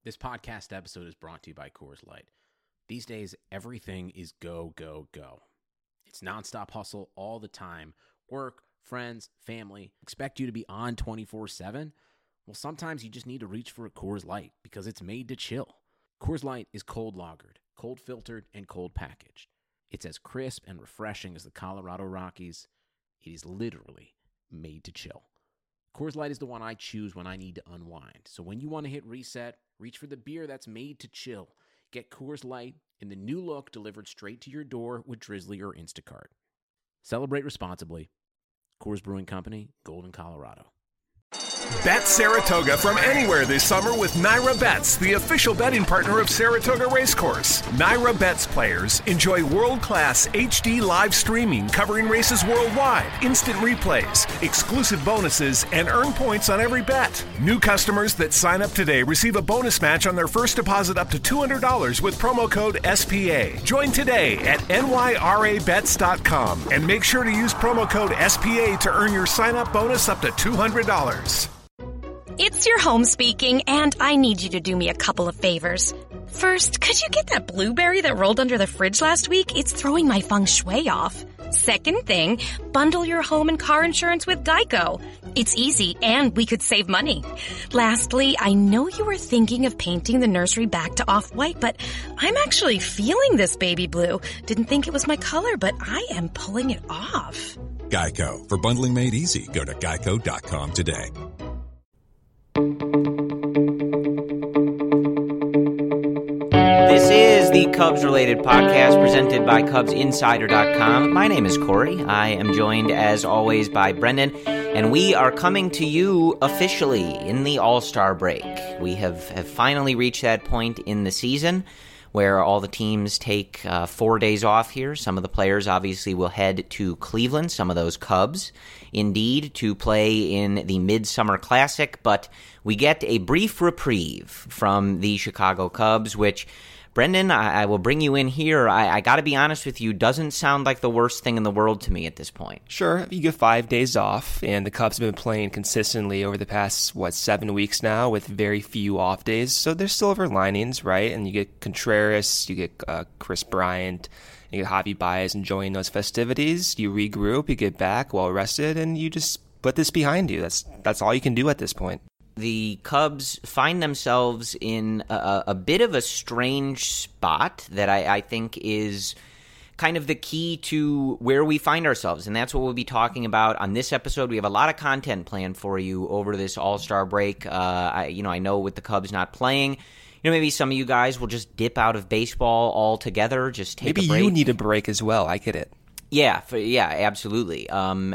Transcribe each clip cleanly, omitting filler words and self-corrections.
This podcast episode is brought to you by Coors Light. These days, everything is go, go, go. It's nonstop hustle all the time. Work, friends, family, expect you to be on 24/7. Well, sometimes you just need to reach for a Coors Light because it's made to chill. Coors Light is cold lagered, cold filtered, and cold packaged. It's as crisp and refreshing as the Colorado Rockies. It is literally made to chill. Coors Light is the one I choose when I need to unwind. So when you want to hit reset, reach for the beer that's made to chill. Get Coors Light in the new look delivered straight to your door with Drizzly or Instacart. Celebrate responsibly. Coors Brewing Company, Golden, Colorado. Bet Saratoga from anywhere this summer with Naira Bets, the official betting partner of Saratoga Racecourse. Naira Bets players enjoy world-class HD live streaming covering races worldwide, instant replays, exclusive bonuses, and earn points on every bet. New customers that sign up today receive a bonus match on their first deposit up to $200 with promo code SPA. Join today at nyrabets.com and make sure to use promo code SPA to earn your sign-up bonus up to $200. It's your home speaking, and I need you to do me a couple of favors. First, could you get that blueberry that rolled under the fridge last week? It's throwing my feng shui off. Second thing, bundle your home and car insurance with Geico. It's easy, and we could save money. Lastly, I know you were thinking of painting the nursery back to off-white, but I'm actually feeling this baby blue. Didn't think it was my color, but I am pulling it off. Geico. For bundling made easy, go to geico.com today. This is the Cubs-related podcast presented by CubsInsider.com. My name is Corey. I am joined, as always, by Brendan, and we are coming to you officially in the All-Star break. We have finally reached that point in the season where all the teams take 4 days off here. Some of the players obviously will head to Cleveland, some of those Cubs, indeed, to play in the Midsummer Classic, but we get a brief reprieve from the Chicago Cubs, which, Brendan, I will bring you in here. I got to be honest with you, doesn't sound like the worst thing in the world to me at this point. Sure, you get 5 days off, and the Cubs have been playing consistently over the past, 7 weeks now with very few off days, so there's silver linings, right? And you get Contreras, you get Chris Bryant, you get Javi Baez enjoying those festivities, you regroup, you get back well-rested, and you just put this behind you. That's all you can do at this point. The Cubs find themselves in a bit of a strange spot that I think is kind of the key to where we find ourselves, and that's what we'll be talking about on this episode. We have a lot of content planned for you over this All-Star break. I know with the Cubs not playing, maybe some of you guys will just dip out of baseball altogether, just take a break. Maybe you need a break as well. I get it. Yeah, absolutely.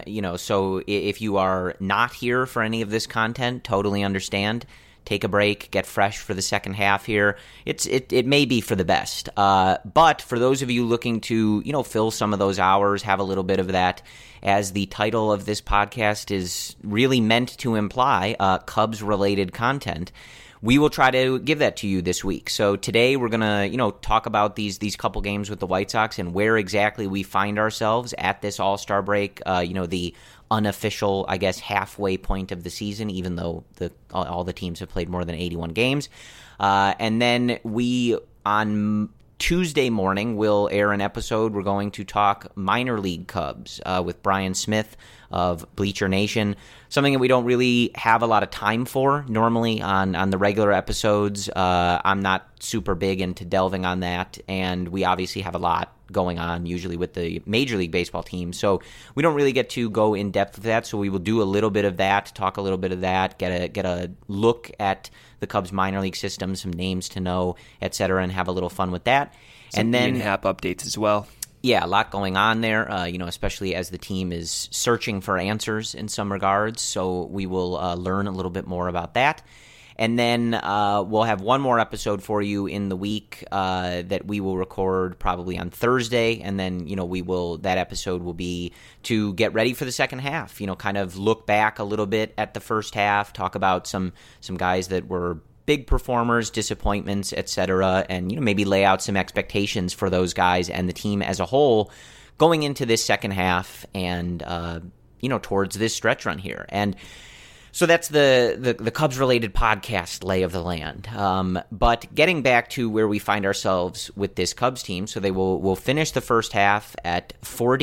So if you are not here for any of this content, totally understand. Take a break, get fresh for the second half here. It may be for the best. But for those of you looking to, fill some of those hours, have a little bit of that, as the title of this podcast is really meant to imply, Cubs-related content, we will try to give that to you this week. So today we're going to, talk about these couple games with the White Sox and where exactly we find ourselves at this All-Star break, the unofficial, I guess, halfway point of the season, even though all the teams have played more than 81 games. And then we, on Tuesday morning, will air an episode. We're going to talk minor league Cubs with Brian Smith of Bleacher Nation, something that we don't really have a lot of time for normally on the regular episodes. I'm not super big into delving on that, and we obviously have a lot going on usually with the Major League Baseball team, so we don't really get to go in depth with that. So we will do a little bit of that, talk a little bit of that, get a look at the Cubs minor league system, some names to know, etc., and have a little fun with that. Some and then in-app updates as well. Yeah, a lot going on there, especially as the team is searching for answers in some regards. So we will learn a little bit more about that. And then we'll have one more episode for you in the week that we will record probably on Thursday. And then, that episode will be to get ready for the second half, kind of look back a little bit at the first half, talk about some guys that were big performers, disappointments, etc., and maybe lay out some expectations for those guys and the team as a whole going into this second half and towards this stretch run here. And So that's the Cubs-related podcast lay of the land. But getting back to where we find ourselves with this Cubs team, so they will finish the first half at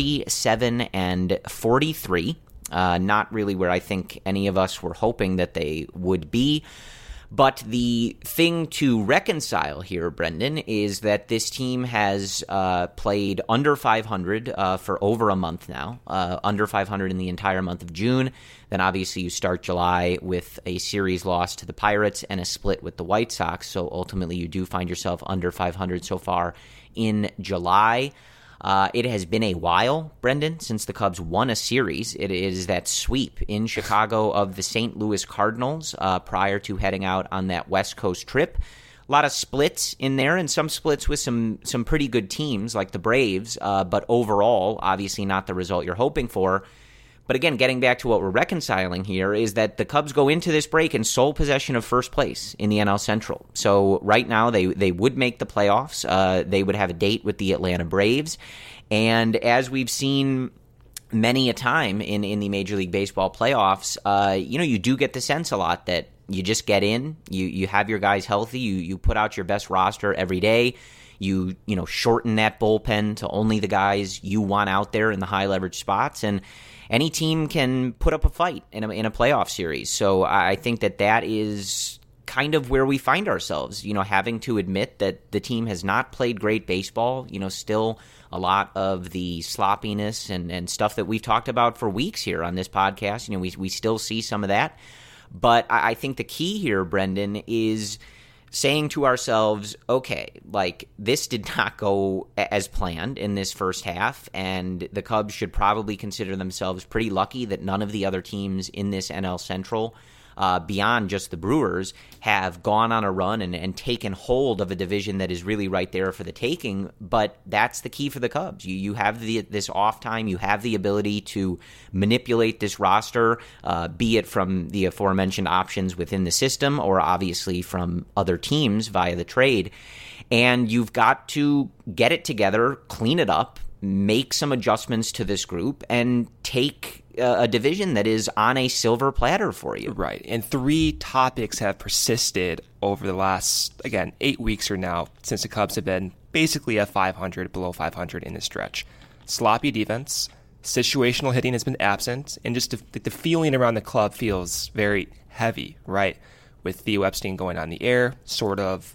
47-43. Not really where I think any of us were hoping that they would be. But the thing to reconcile here, Brendan, is that this team has played under 500 for over a month now, under 500 in the entire month of June. Then obviously you start July with a series loss to the Pirates and a split with the White Sox. So ultimately you do find yourself under 500 so far in July. It has been a while, Brendan, since the Cubs won a series. It is that sweep in Chicago of the St. Louis Cardinals prior to heading out on that West Coast trip. A lot of splits in there, and some splits with some pretty good teams like the Braves, but overall, obviously not the result you're hoping for. But again, getting back to what we're reconciling here is that the Cubs go into this break in sole possession of first place in the NL Central. So right now they would make the playoffs. They would have a date with the Atlanta Braves. And as we've seen many a time in the Major League Baseball playoffs, you do get the sense a lot that you just get in, you have your guys healthy, you put out your best roster every day. You shorten that bullpen to only the guys you want out there in the high leverage spots, and any team can put up a fight in a playoff series. So I think that is kind of where we find ourselves, having to admit that the team has not played great baseball, still a lot of the sloppiness and stuff that we've talked about for weeks here on this podcast. We still see some of that. But I think the key here, Brendan, is saying to ourselves, okay, this did not go as planned in this first half, and the Cubs should probably consider themselves pretty lucky that none of the other teams in this NL Central, beyond just the Brewers, have gone on a run and taken hold of a division that is really right there for the taking. But that's the key for the Cubs. You have this off time. You have the ability to manipulate this roster, be it from the aforementioned options within the system or obviously from other teams via the trade. And you've got to get it together, clean it up, make some adjustments to this group, and take a division that is on a silver platter for you. Right. And three topics have persisted over the last, 8 weeks or now, since the Cubs have been basically at 500, below 500 in the stretch. Sloppy defense, situational hitting has been absent, and just the feeling around the club feels very heavy, right? With Theo Epstein going on the air, sort of,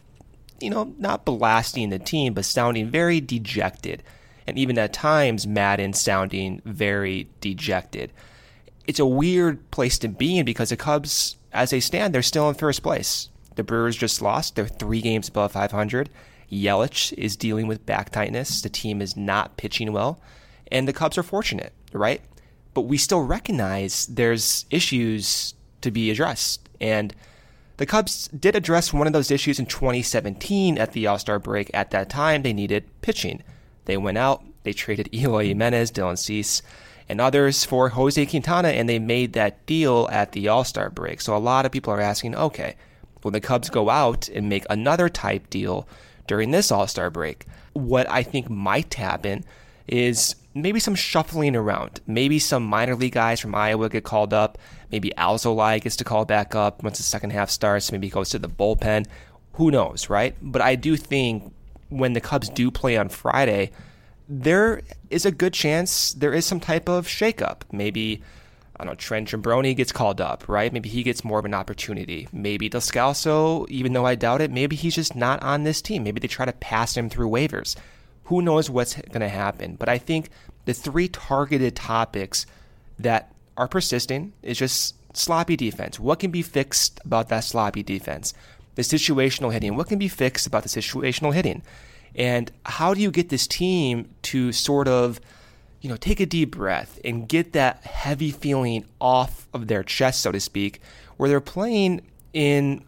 not blasting the team, but sounding very dejected. And even at times, Madden sounding very dejected. It's a weird place to be in because the Cubs, as they stand, they're still in first place. The Brewers just lost. They're 3 games above 500. Yelich is dealing with back tightness. The team is not pitching well. And the Cubs are fortunate, right? But we still recognize there's issues to be addressed. And the Cubs did address one of those issues in 2017 at the All-Star break. At that time, they needed pitching. They went out, they traded Eloy Jimenez, Dylan Cease, and others for Jose Quintana, and they made that deal at the All-Star break. So a lot of people are asking, okay, will the Cubs go out and make another type deal during this All-Star break? What I think might happen is maybe some shuffling around. Maybe some minor league guys from Iowa get called up. Maybe Alzolay gets to call back up once the second half starts. Maybe he goes to the bullpen. Who knows, right? But I do think when the Cubs do play on Friday, there is a good chance there is some type of shakeup. Maybe, Trent Jambroni gets called up, right? Maybe he gets more of an opportunity. Maybe Descalso, even though I doubt it, maybe he's just not on this team. Maybe they try to pass him through waivers. Who knows what's going to happen? But I think the 3 targeted topics that are persisting is just sloppy defense. What can be fixed about that sloppy defense? The situational hitting. What can be fixed about the situational hitting? And how do you get this team to sort of, take a deep breath and get that heavy feeling off of their chest, so to speak, where they're playing in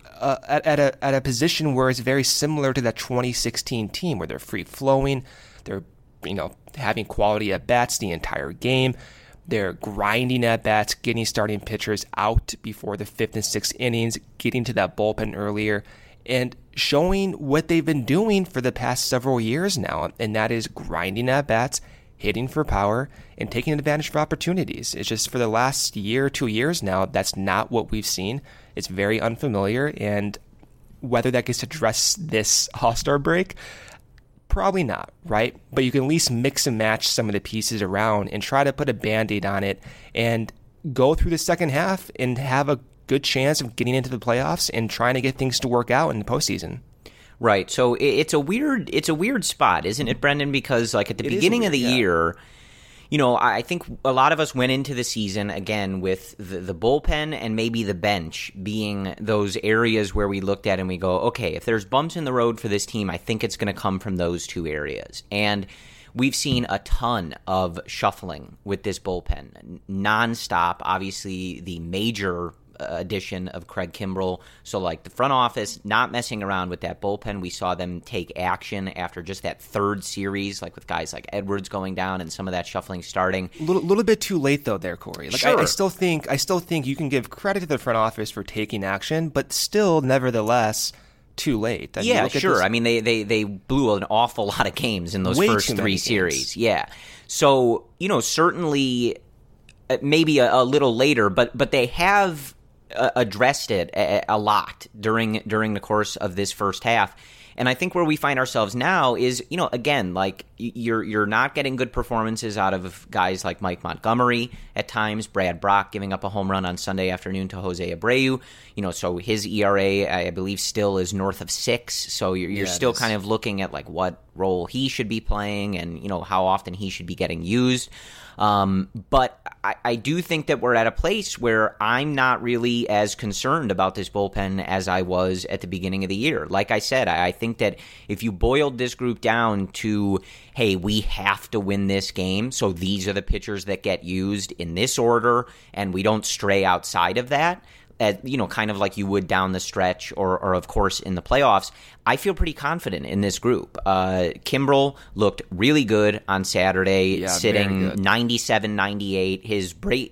at a position where it's very similar to that 2016 team, where they're free flowing, they're having quality at bats the entire game. They're grinding at bats, getting starting pitchers out before the 5th and 6th innings, getting to that bullpen earlier, and showing what they've been doing for the past several years now, and that is grinding at bats, hitting for power, and taking advantage of opportunities. It's just for the last year, 2 years now, that's not what we've seen. It's very unfamiliar, and whether that gets addressed this All-Star break, probably not, right? But you can at least mix and match some of the pieces around and try to put a Band-Aid on it and go through the second half and have a good chance of getting into the playoffs and trying to get things to work out in the postseason. Right. So it's a weird spot, isn't it, Brendan? Because like at the beginning of the year, you know, I think a lot of us went into the season again with the bullpen and maybe the bench being those areas where we looked at and we go, okay, if there's bumps in the road for this team, I think it's going to come from those two areas. And we've seen a ton of shuffling with this bullpen, nonstop. Obviously, the major addition of Craig Kimbrel. So like the front office not messing around with that bullpen. We saw them take action after just that third series, like with guys like Edwards going down and some of that shuffling starting. Little bit too late though there, Corey. Like sure. I still think you can give credit to the front office for taking action, but still nevertheless too late. Yeah, sure. I mean they blew an awful lot of games in those first three series. Yeah. So, you know, certainly maybe a little later, but they have addressed it a lot during the course of this first half. And I think where we find ourselves now is, you know, again, like you're not getting good performances out of guys like Mike Montgomery at times, Brad Brock giving up a home run on Sunday afternoon to Jose Abreu, you know, so his ERA, I believe, still is north of 6. So you're still kind of looking at like what role he should be playing and, you know, how often he should be getting used. But I do think that we're at a place where I'm not really as concerned about this bullpen as I was at the beginning of the year. Like I said, I think that if you boiled this group down to, hey, we have to win this game, so these are the pitchers that get used in this order, and we don't stray outside of that, you know, kind of like you would down the stretch or of course in the playoffs, I feel pretty confident in this group. Kimbrel looked really good on Saturday, sitting 97, 98. His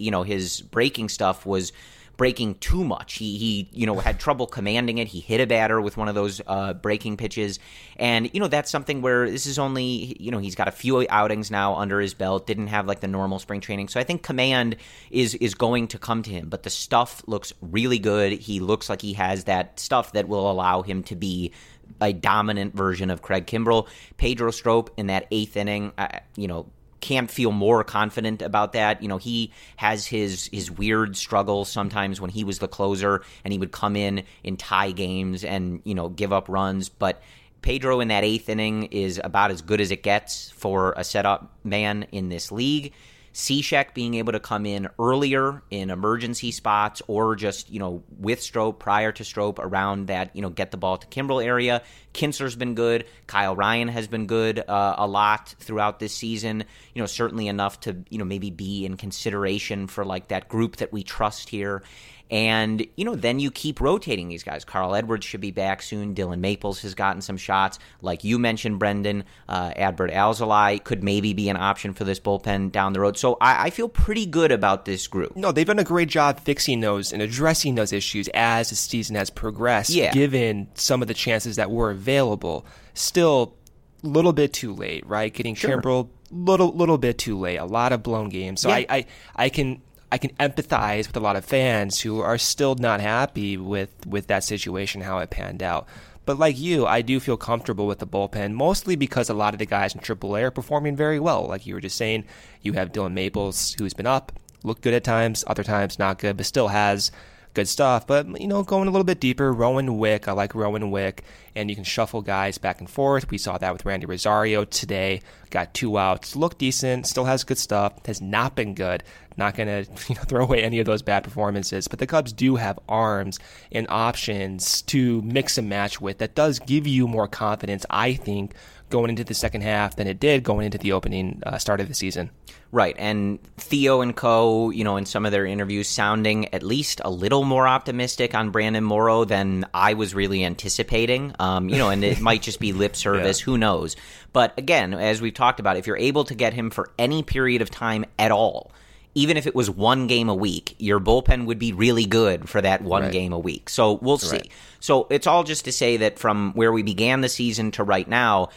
breaking stuff was breaking too much. He you know, had trouble commanding it. He hit a batter with one of those breaking pitches. And, you know, that's something where this is only, you know, he's got a few outings now under his belt, didn't have like the normal spring training. So I think command is going to come to him. But the stuff looks really good. He looks like he has that stuff that will allow him to be a dominant version of Craig Kimbrel. Pedro Strop in that 8th inning, you know, can't feel more confident about that. You know, he has his weird struggles sometimes when he was the closer and he would come in tie games and, you know, give up runs. But Pedro in that 8th inning is about as good as it gets for a setup man in this league. Cishek being able to come in earlier in emergency spots or just, you know, with Strop, prior to Strop, around that, you know, get the ball to Kimbrel area. Kinsler's been good. Kyle Ryan has been good a lot throughout this season. You know, certainly enough to, you know, maybe be in consideration for like that group that we trust here. And, you know, then you keep rotating these guys. Carl Edwards should be back soon. Dylan Maples has gotten some shots. Like you mentioned, Brendan, Adbert Alzolay could maybe be an option for this bullpen down the road. So I feel pretty good about this group. No, they've done a great job fixing those and addressing those issues as the season has progressed, given some of the chances that were available. Still a little bit too late, right? Getting Kimbrel, little bit too late. A lot of blown games. So I can empathize with a lot of fans who are still not happy with that situation, how it panned out. But like you, I do feel comfortable with the bullpen, mostly because a lot of the guys in AAA are performing very well. Like you were just saying, you have Dylan Maples, who's been up, looked good at times, other times not good, but still has good stuff. But, you know, going a little bit deeper, Rowan Wick, I like Rowan Wick, and you can shuffle guys back and forth. We saw that with Randy Rosario today, got 2 outs, looked decent, still has good stuff, has not been good. Not going to throw away any of those bad performances, but the Cubs do have arms and options to mix and match with that does give you more confidence, I think, going into the second half than it did going into the opening start of the season. Right, and Theo and co, you know, in some of their interviews sounding at least a little more optimistic on Brandon Morrow than I was really anticipating, you know, and it might just be lip service, who knows. But again, as we've talked about, if you're able to get him for any period of time at all, even if it was 1 game a week, your bullpen would be really good for that one game a week. So we'll see. So it's all just to say that from where we began the season to right now,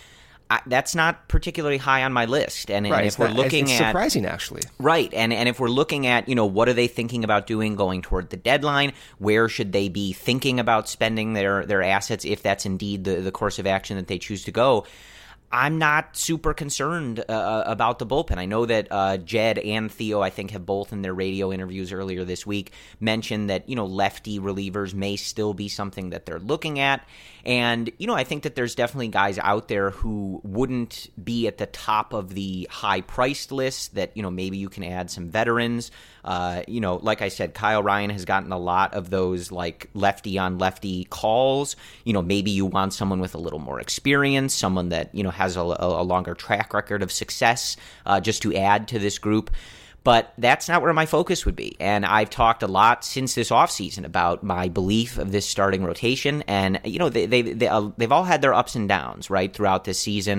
that's not particularly high on my list. And if we're looking it's at surprising, actually. Right. And if we're looking at, what are they thinking about doing going toward the deadline? Where should they be thinking about spending their assets if that's indeed the course of action that they choose to go? I'm not super concerned about the bullpen. I know that Jed and Theo, I think, have both in their radio interviews earlier this week mentioned that, lefty relievers may still be something that they're looking at. And, I think that there's definitely guys out there who wouldn't be at the top of the high-priced list that, maybe you can add some veterans. Like I said, Kyle Ryan has gotten a lot of those, like, lefty-on-lefty calls. Maybe you want someone with a little more experience, someone that, has a longer track record of success just to add to this group. But that's not where my focus would be. And I've talked a lot since this offseason about my belief of this starting rotation. And, they've all had their ups and downs, right, throughout this season.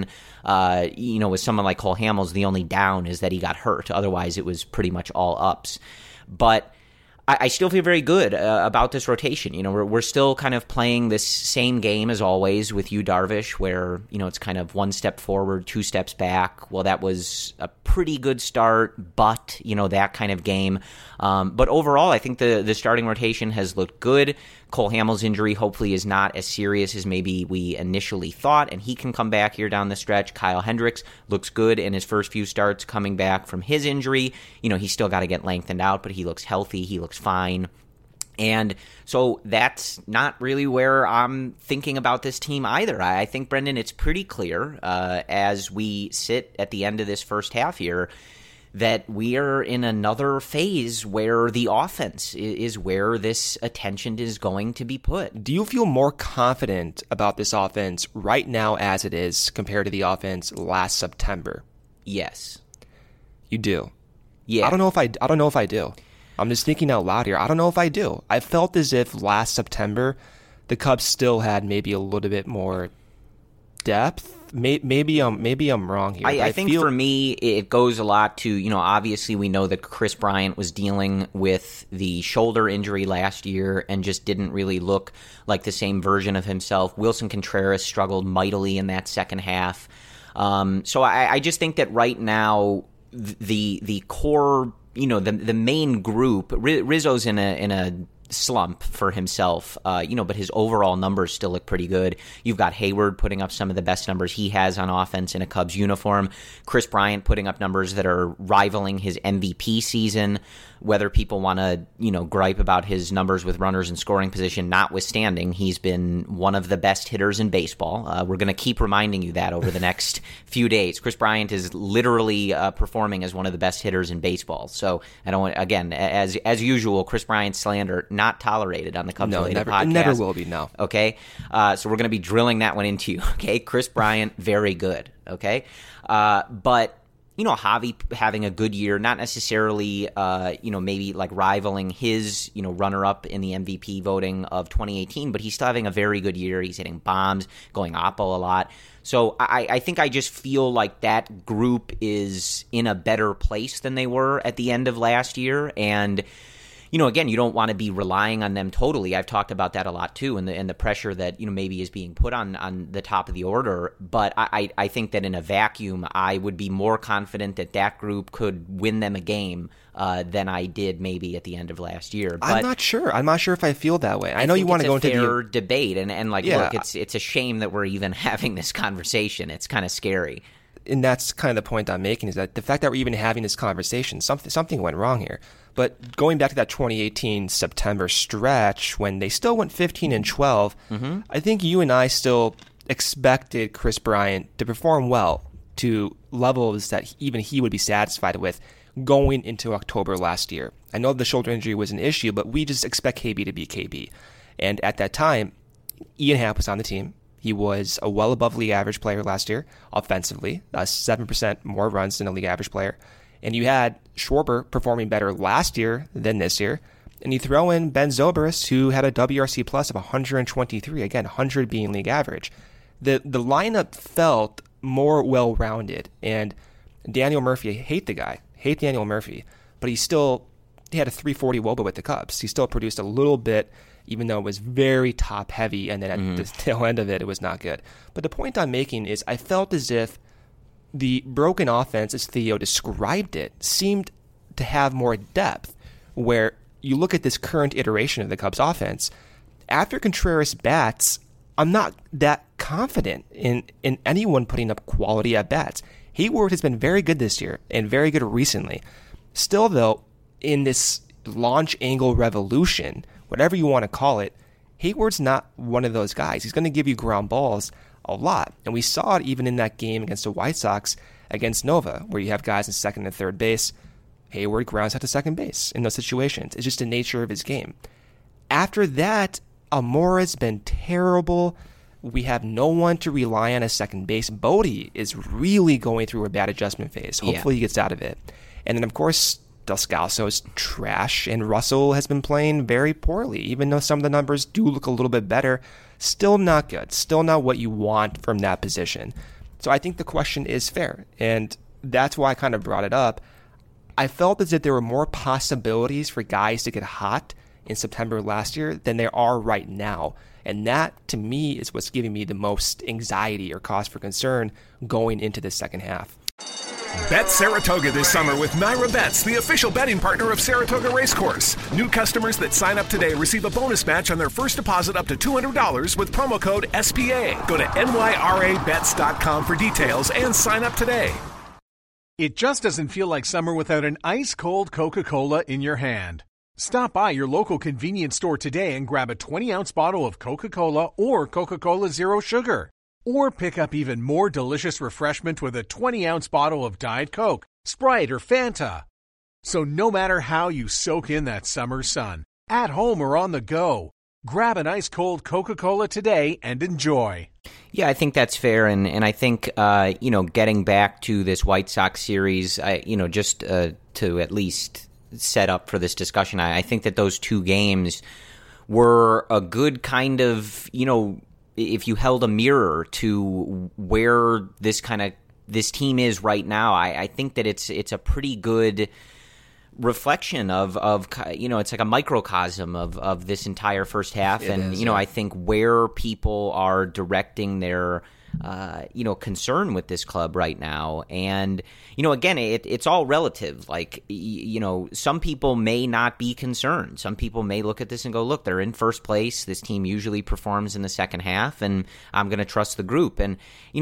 With someone like Cole Hamels, the only down is that he got hurt. Otherwise, it was pretty much all ups. But I still feel very good about this rotation. We're still kind of playing this same game as always with Yu Darvish, where, it's kind of one step forward, two steps back. Well, that was a pretty good start, but, that kind of game. But overall, I think the starting rotation has looked good. Cole Hamels' injury hopefully is not as serious as maybe we initially thought, and he can come back here down the stretch. Kyle Hendricks looks good in his first few starts coming back from his injury. He's still got to get lengthened out, but he looks healthy. He looks fine. And so that's not really where I'm thinking about this team either. I think, Brendan, it's pretty clear as we sit at the end of this first half here that we are in another phase where the offense is where this attention is going to be put. Do you feel more confident about this offense right now as it is compared to the offense last September? Yes. You do? Yeah. I don't know if I do. I'm just thinking out loud here. I don't know if I do. I felt as if last September the Cubs still had maybe a little bit more depth. Maybe I'm wrong here. I think for me, it goes a lot to, obviously we know that Chris Bryant was dealing with the shoulder injury last year and just didn't really look like the same version of himself. Wilson Contreras struggled mightily in that second half. So I just think that right now the core, the main group, Rizzo's in a slump for himself, but his overall numbers still look pretty good. You've got Hayward putting up some of the best numbers he has on offense in a Cubs uniform. Chris Bryant putting up numbers that are rivaling his MVP season. Whether people want to, gripe about his numbers with runners in scoring position notwithstanding, he's been one of the best hitters in baseball. We're going to keep reminding you that over the next few days. Chris Bryant is literally performing as one of the best hitters in baseball. So I don't want, again, as usual, Chris Bryant slander not tolerated on the Cubs Related podcast. It never will be, no. Okay? So we're going to be drilling that one into you, okay? Chris Bryant, very good, okay? But Javi having a good year, not necessarily, maybe like rivaling his, runner-up in the MVP voting of 2018, but he's still having a very good year. He's hitting bombs, going oppo a lot. So I think I just feel like that group is in a better place than they were at the end of last year. And again, you don't want to be relying on them totally. I've talked about that a lot too, and the pressure that maybe is being put on the top of the order. But I think that in a vacuum, I would be more confident that group could win them a game than I did maybe at the end of last year. But I'm not sure. I'm not sure if I feel that way. I know you want to go into fair debate, and look, it's a shame that we're even having this conversation. It's kind of scary. And that's kind of the point I'm making, is that the fact that we're even having this conversation, something went wrong here. But going back to that 2018 September stretch when they still went 15-12, I think you and I still expected Chris Bryant to perform well to levels that even he would be satisfied with going into October last year. I know the shoulder injury was an issue, but we just expect KB to be KB. And at that time, Ian Happ was on the team. He was a well above league average player last year offensively, 7% more runs than a league average player. And you had Schwarber performing better last year than this year. And you throw in Ben Zobrist, who had a WRC plus of 123, again, 100 being league average. The lineup felt more well-rounded. And Daniel Murphy, I hate the guy, hate Daniel Murphy, but he had a 340 WOBA with the Cubs. He still produced a little bit even though it was very top heavy, and then at the tail end of it, it was not good. But the point I'm making is I felt as if the broken offense, as Theo described it, seemed to have more depth, where you look at this current iteration of the Cubs offense, after Contreras bats, I'm not that confident in anyone putting up quality at bats. Hayward has been very good this year and very good recently. Still, though, in this launch angle revolution, whatever you want to call it, Hayward's not one of those guys. He's going to give you ground balls a lot. And we saw it even in that game against the White Sox against Nova, where you have guys in second and third base. Hayward grounds out to second base in those situations. It's just the nature of his game. After that, Almora's been terrible. We have no one to rely on as second base. Bodie is really going through a bad adjustment phase. Hopefully he gets out of it. And then, of course, Descalso is trash, and Russell has been playing very poorly. Even though some of the numbers do look a little bit better, still not good. Still not what you want from that position. So I think the question is fair, and that's why I kind of brought it up. I felt as if there were more possibilities for guys to get hot in September last year than there are right now. And that, to me, is what's giving me the most anxiety or cause for concern going into the second half. Bet Saratoga this summer with Naira Bets, the official betting partner of Saratoga Racecourse. New customers that sign up today receive a bonus match on their first deposit up to $200 with promo code SPA. Go to nyrabets.com for details and sign up today. It just doesn't feel like summer without an ice-cold Coca-Cola in your hand. Stop by your local convenience store today and grab a 20-ounce bottle of Coca-Cola or Coca-Cola Zero Sugar. Or pick up even more delicious refreshment with a 20-ounce bottle of Diet Coke, Sprite, or Fanta. So no matter how you soak in that summer sun, at home or on the go, grab an ice-cold Coca-Cola today and enjoy. Yeah, I think that's fair, and I think getting back to this White Sox series, just to at least set up for this discussion, I think that those two games were a good kind of, if you held a mirror to where this team is right now, I think that it's a pretty good reflection of it's like a microcosm of this entire first half. I think where people are directing their concern with this club right now. And again, it's all relative. Like, some people may not be concerned. Some people may look at this and go, look, they're in first place. This team usually performs in the second half, and I'm going to trust the group. And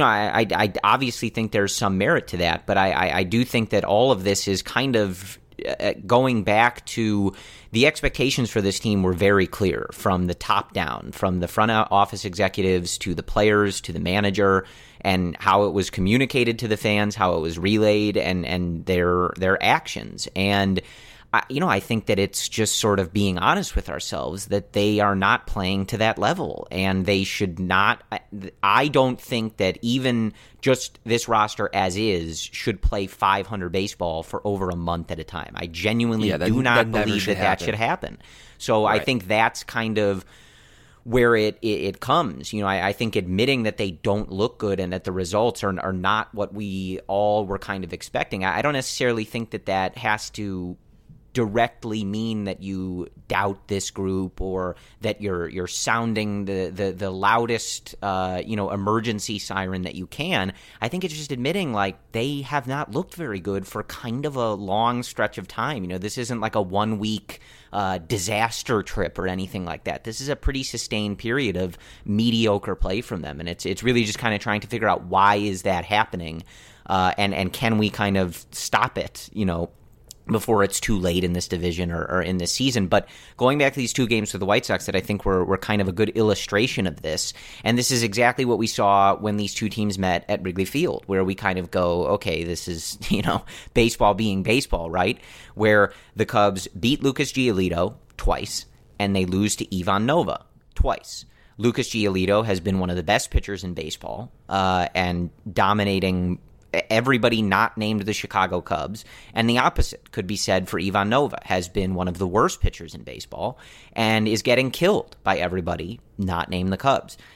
I obviously think there's some merit to that, but I do think that all of this is kind of going back to the expectations for this team were very clear from the top down, from the front office executives to the players to the manager, and how it was communicated to the fans, how it was relayed, and their actions. And I think that it's just sort of being honest with ourselves that they are not playing to that level, and they should not. I don't think that even just this roster as is should play 500 baseball for over a month at a time. I genuinely do not believe that should happen. So right. I think that's kind of where it comes. I think admitting that they don't look good and that the results are not what we all were kind of expecting. I don't necessarily think that has to directly mean that you doubt this group or that you're sounding the loudest emergency siren that you can. I think it's just admitting like they have not looked very good for kind of a long stretch of time. This isn't like a 1 week disaster trip or anything like that. This is a pretty sustained period of mediocre play from them, and it's really just kind of trying to figure out why is that happening, and can we kind of stop it, before it's too late in this division or in this season. But going back to these two games with the White Sox that I think were kind of a good illustration of this, and this is exactly what we saw when these two teams met at Wrigley Field, where we kind of go, okay, this is, baseball being baseball, right? Where the Cubs beat Lucas Giolito twice, and they lose to Ivan Nova twice. Lucas Giolito has been one of the best pitchers in baseball, and dominating everybody not named the Chicago Cubs, and the opposite could be said for Ivan Nova, has been one of the worst pitchers in baseball and is getting killed by everybody not named the Cubs.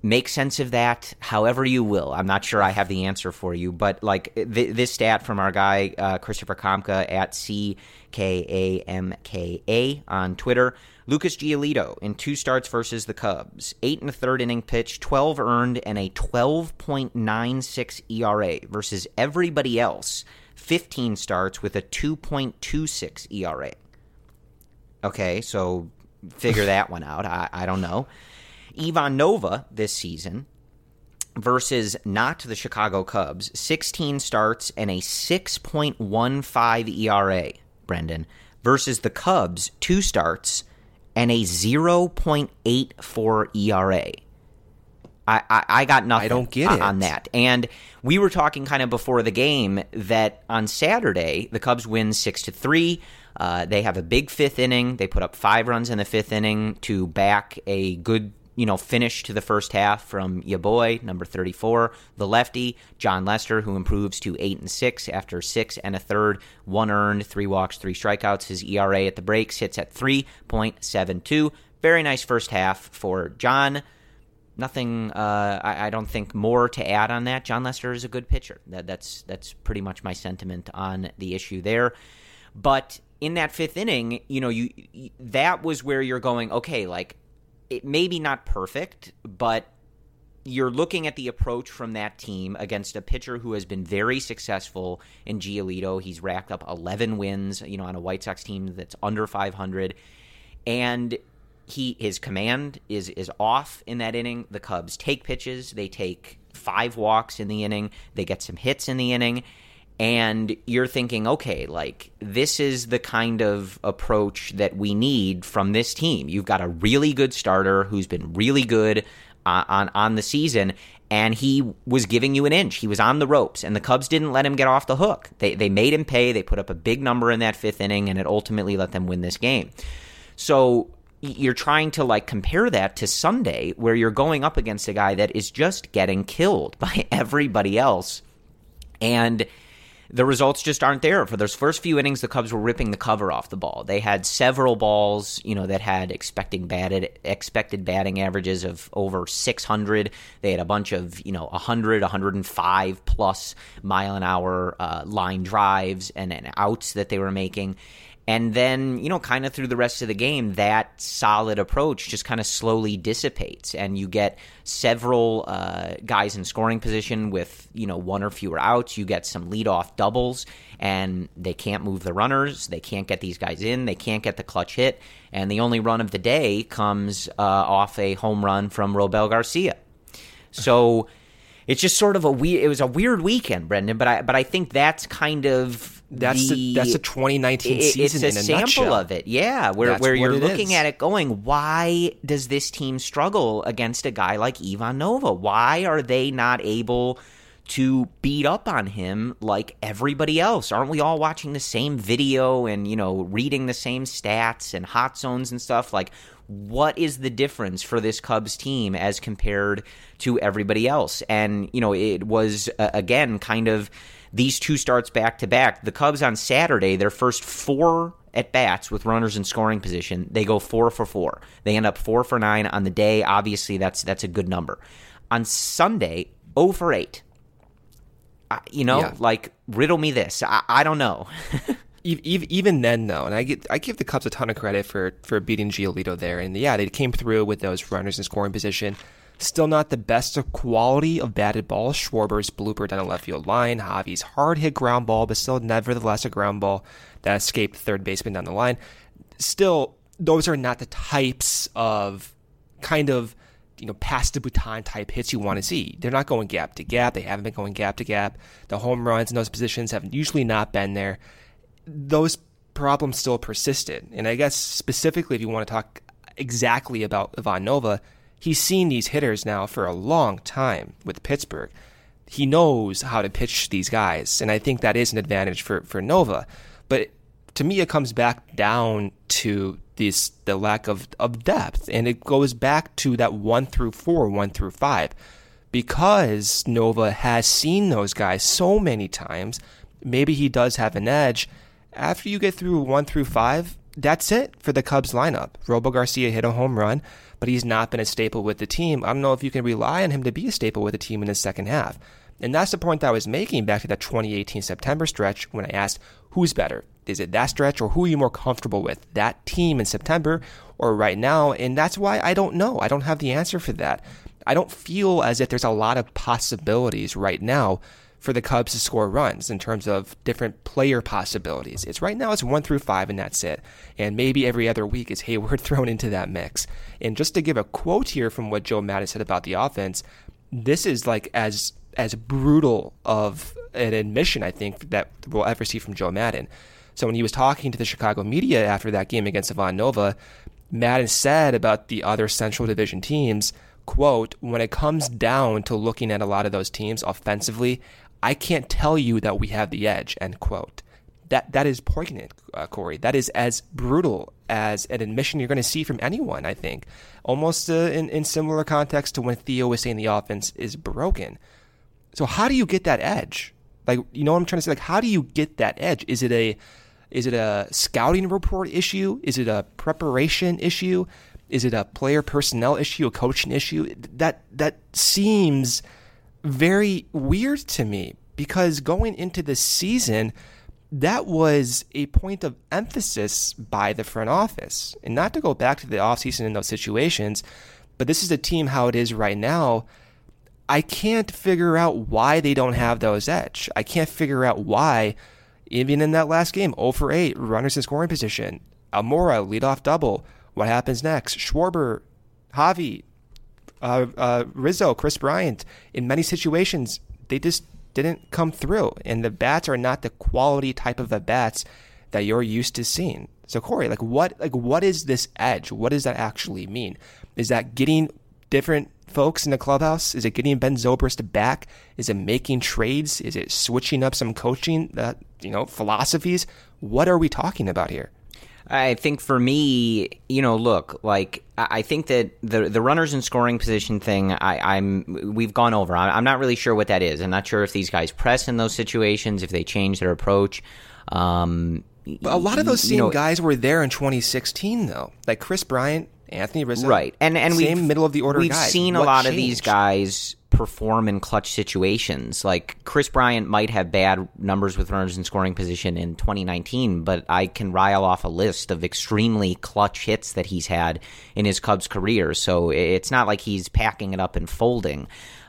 make sense of that however you will. I'm not sure I have the answer for you, but like this stat from our guy, Christopher Kamka at CKAMKA on Twitter. Lucas Giolito in 2 starts versus the Cubs, 8 1/3 inning pitch, 12 earned, and a 12.96 ERA versus everybody else, 15 starts with a 2.26 ERA. Okay, so figure that one out. I don't know. Ivan Nova this season versus not the Chicago Cubs, 16 starts and a 6.15 ERA, Brendan, versus the Cubs, 2 starts and a 0.84 ERA. I got nothing. I don't get it on that. And we were talking kind of before the game that on Saturday the Cubs win 6-3. They have a big 5th inning. They put up 5 runs in the 5th inning to back a good finish to the first half from your boy, number 34, the lefty, John Lester, who improves to 8-6 after 6 1/3, 1 earned, 3 walks, 3 strikeouts. His ERA at the breaks hits at 3.72. Very nice first half for John. Nothing, I don't think, more to add on that. John Lester is a good pitcher. That's pretty much my sentiment on the issue there. But in that 5th inning, that was where you're going, okay, like, it maybe not perfect, but you're looking at the approach from that team against a pitcher who has been very successful in Giolito. He's racked up 11 wins, on a White Sox team that's under 500, and his command is off in that inning. The Cubs take pitches. They take 5 walks in the inning. They get some hits in the inning. And you're thinking, okay, like, this is the kind of approach that we need from this team. You've got a really good starter who's been really good on the season, and he was giving you an inch. He was on the ropes, and the Cubs didn't let him get off the hook. They made him pay. They put up a big number in that 5th inning, and it ultimately let them win this game. So you're trying to, like, compare that to Sunday, where you're going up against a guy that is just getting killed by everybody else. And the results just aren't there. For those first few innings, the Cubs were ripping the cover off the ball. They had several balls, that had expected batting averages of over 600. They had a bunch of, 100, 105 plus mile an hour line drives and outs that they were making. And then, kind of through the rest of the game, that solid approach just kind of slowly dissipates. And you get several guys in scoring position with, 1 or fewer outs. You get some leadoff doubles, and they can't move the runners. They can't get these guys in. They can't get the clutch hit. And the only run of the day comes off a home run from Robel Garcia. So it's just sort of it was a weird weekend, Brendan, but I think that's kind of that's the 2019 season it's a in a sample nutshell. Of it, yeah, where you're looking at it going, why does this team struggle against a guy like Ivan Nova? Why are they not able to beat up on him like everybody else? Aren't we all watching the same video and, reading the same stats and hot zones and stuff? Like, what is the difference for this Cubs team as compared to everybody else? And, it was, again, kind of these 2 starts back-to-back. The Cubs on Saturday, their first 4 at-bats with runners in scoring position, they go 4 for 4. They end up 4 for 9 on the day. Obviously, that's a good number. On Sunday, 0 for 8. Like, riddle me this. I don't know. Even then, though, and I give the Cubs a ton of credit for beating Giolito there. And, yeah, they came through with those runners in scoring position. Still not the best quality of batted balls. Schwarber's blooper down the left field line. Javi's hard-hit ground ball, but still nevertheless a ground ball that escaped third baseman down the line. Still, those are not the types of kind of, pass the baton type hits you want to see. They're not going gap to gap. They haven't been going gap to gap. The home runs in those positions have usually not been there. Those problems still persisted. And I guess specifically if you want to talk exactly about Ivan Nova, he's seen these hitters now for a long time with Pittsburgh. He knows how to pitch these guys, and I think that is an advantage for Nova. But to me, it comes back down to the lack of depth, and it goes back to that 1 through 4, 1 through 5. Because Nova has seen those guys so many times, maybe he does have an edge. After you get through 1 through 5, that's it for the Cubs lineup. Robo Garcia hit a home run, but he's not been a staple with the team. I don't know if you can rely on him to be a staple with the team in the second half. And that's the point that I was making back to that 2018 September stretch when I asked, who's better? Is it that stretch, or who are you more comfortable with? That team in September or right now? And that's why I don't know. I don't have the answer for that. I don't feel as if there's a lot of possibilities right now for the Cubs to score runs in terms of different player possibilities. It's right now it's 1 through 5 and that's it. And maybe every other week is Hayward thrown into that mix. And just to give a quote here from what Joe Maddon said about the offense, this is like as brutal of an admission, I think, that we'll ever see from Joe Maddon. So when he was talking to the Chicago media after that game against Ivan Nova, Maddon said about the other Central Division teams, quote, when it comes down to looking at a lot of those teams offensively, I can't tell you that we have the edge, end quote. That is poignant, Corey. That is as brutal as an admission you're going to see from anyone, I think. Almost in similar context to when Theo was saying the offense is broken. So how do you get that edge? Like, you know what I'm trying to say? Like, how do you get that edge? Is it a scouting report issue? Is it a preparation issue? Is it a player personnel issue, a coaching issue? That seems very weird to me, because going into the season, that was a point of emphasis by the front office. And not to go back to the offseason in those situations, but this is a team how it is right now. I can't figure out why they don't have those edge. I can't figure out why, even in that last game, 0 for 8, runners in scoring position, Almora, leadoff double. What happens next? Schwarber, Javi, Rizzo, Chris Bryant, in many situations, they just didn't come through. And the bats are not the quality type of at-bats that you're used to seeing. So, Corey, what is this edge? What does that actually mean? Is that getting different folks in the clubhouse? Is it getting Ben Zobrist back? Is it making trades? Is it switching up some coaching philosophies? What are we talking about here? I think for me, look, like, I think that the runners in scoring position thing, we've gone over. I'm not really sure what that is. I'm not sure if these guys press in those situations, if they change their approach. But a lot of those same guys were there in 2016, though. Like Chris Bryant, Anthony Rizzo, right? And same middle of the order guys. We've seen a lot of these guys perform in clutch situations. Like Chris Bryant might have bad numbers with runners in scoring position in 2019, but I can rile off a list of extremely clutch hits that he's had in his Cubs career. So it's not like he's packing it up and folding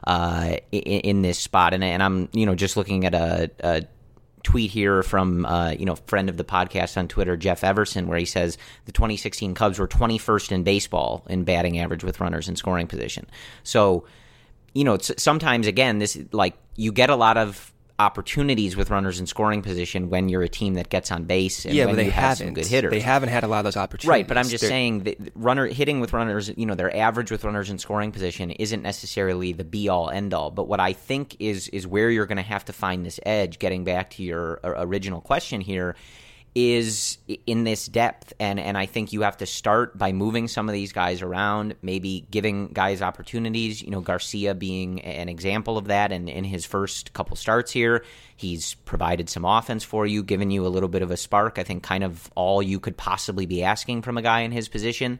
in this spot. And I'm just looking at a tweet here from friend of the podcast on Twitter, Jeff Everson, where he says the 2016 Cubs were 21st in baseball in batting average with runners in scoring position. So sometimes, again, this, like, you get a lot of opportunities with runners in scoring position when you're a team that gets on base and when you have some good hitters. They haven't had a lot of those opportunities. Right, but I'm just saying that hitting with runners, their average with runners in scoring position isn't necessarily the be-all, end-all. But what I think is where you're going to have to find this edge, getting back to your original question here, is in this depth. And I think you have to start by moving some of these guys around, maybe giving guys opportunities, Garcia being an example of that. And in his first couple starts here, he's provided some offense for you, given you a little bit of a spark. I think kind of all you could possibly be asking from a guy in his position.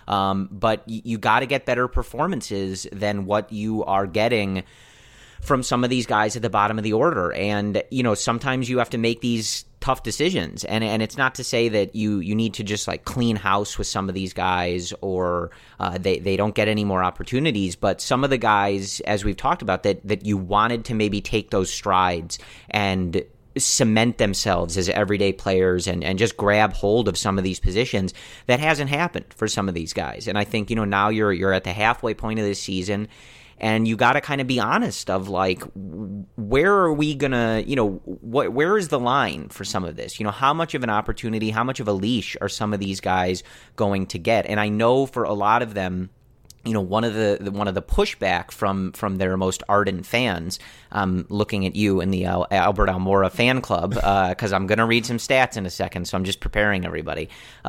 But you got to get better performances than what you are getting from some of these guys at the bottom of the order. And, sometimes you have to make these tough decisions. And it's not to say that you need to just like clean house with some of these guys or they don't get any more opportunities. But some of the guys, as we've talked about, that you wanted to maybe take those strides and cement themselves as everyday players and just grab hold of some of these positions, that hasn't happened for some of these guys. And I think, now you're at the halfway point of this season, and you got to kind of be honest of like, where are we going to, where is the line for some of this? How much of an opportunity, how much of a leash are some of these guys going to get? And I know for a lot of them, one of the pushback from their most ardent fans, looking at you in the Albert Almora fan club, because I'm going to read some stats in a second, so I'm just preparing everybody.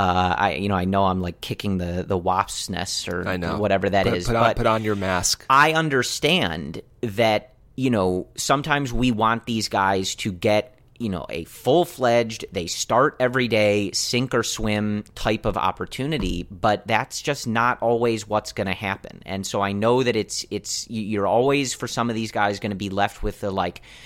I know I'm like kicking the wasp's nest or whatever that is. Put on your mask. I understand that, sometimes we want these guys to get a full-fledged, they start every day, sink or swim type of opportunity, but that's just not always what's going to happen. And so I know that you're always, for some of these guys, going to be left with the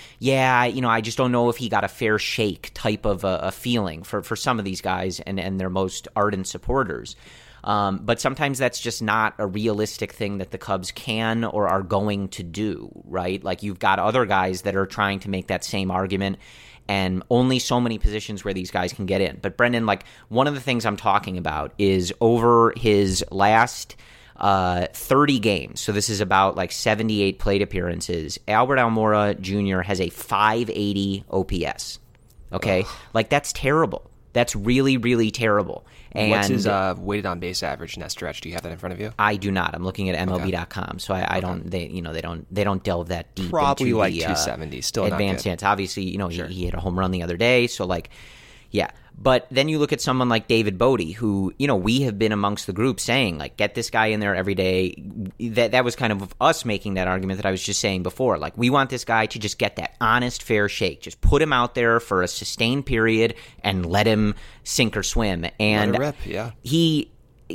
I just don't know if he got a fair shake type of a feeling for some of these guys and their most ardent supporters. But sometimes that's just not a realistic thing that the Cubs can or are going to do, right? Like, you've got other guys that are trying to make that same argument, and only so many positions where these guys can get in. But Brendan, one of the things I'm talking about is over his last 30 games, so this is about 78 plate appearances, Albert Almora Jr. has a 580 OPS. Okay? Ugh. That's terrible. That's really, really terrible. And what's his weighted on base average in that stretch? Do you have that in front of you? I do not. I'm looking at MLB.com, so I don't. They don't delve that deep. Probably into like the, 270. Still advanced not good. stance. Obviously, Sure. he hit a home run the other day, so yeah. But then you look at someone like David Bodie, who, we have been amongst the group saying, get this guy in there every day. That was kind of us making that argument that I was just saying before. We want this guy to just get that honest, fair shake. Just put him out there for a sustained period and let him sink or swim. And let it rip, yeah. He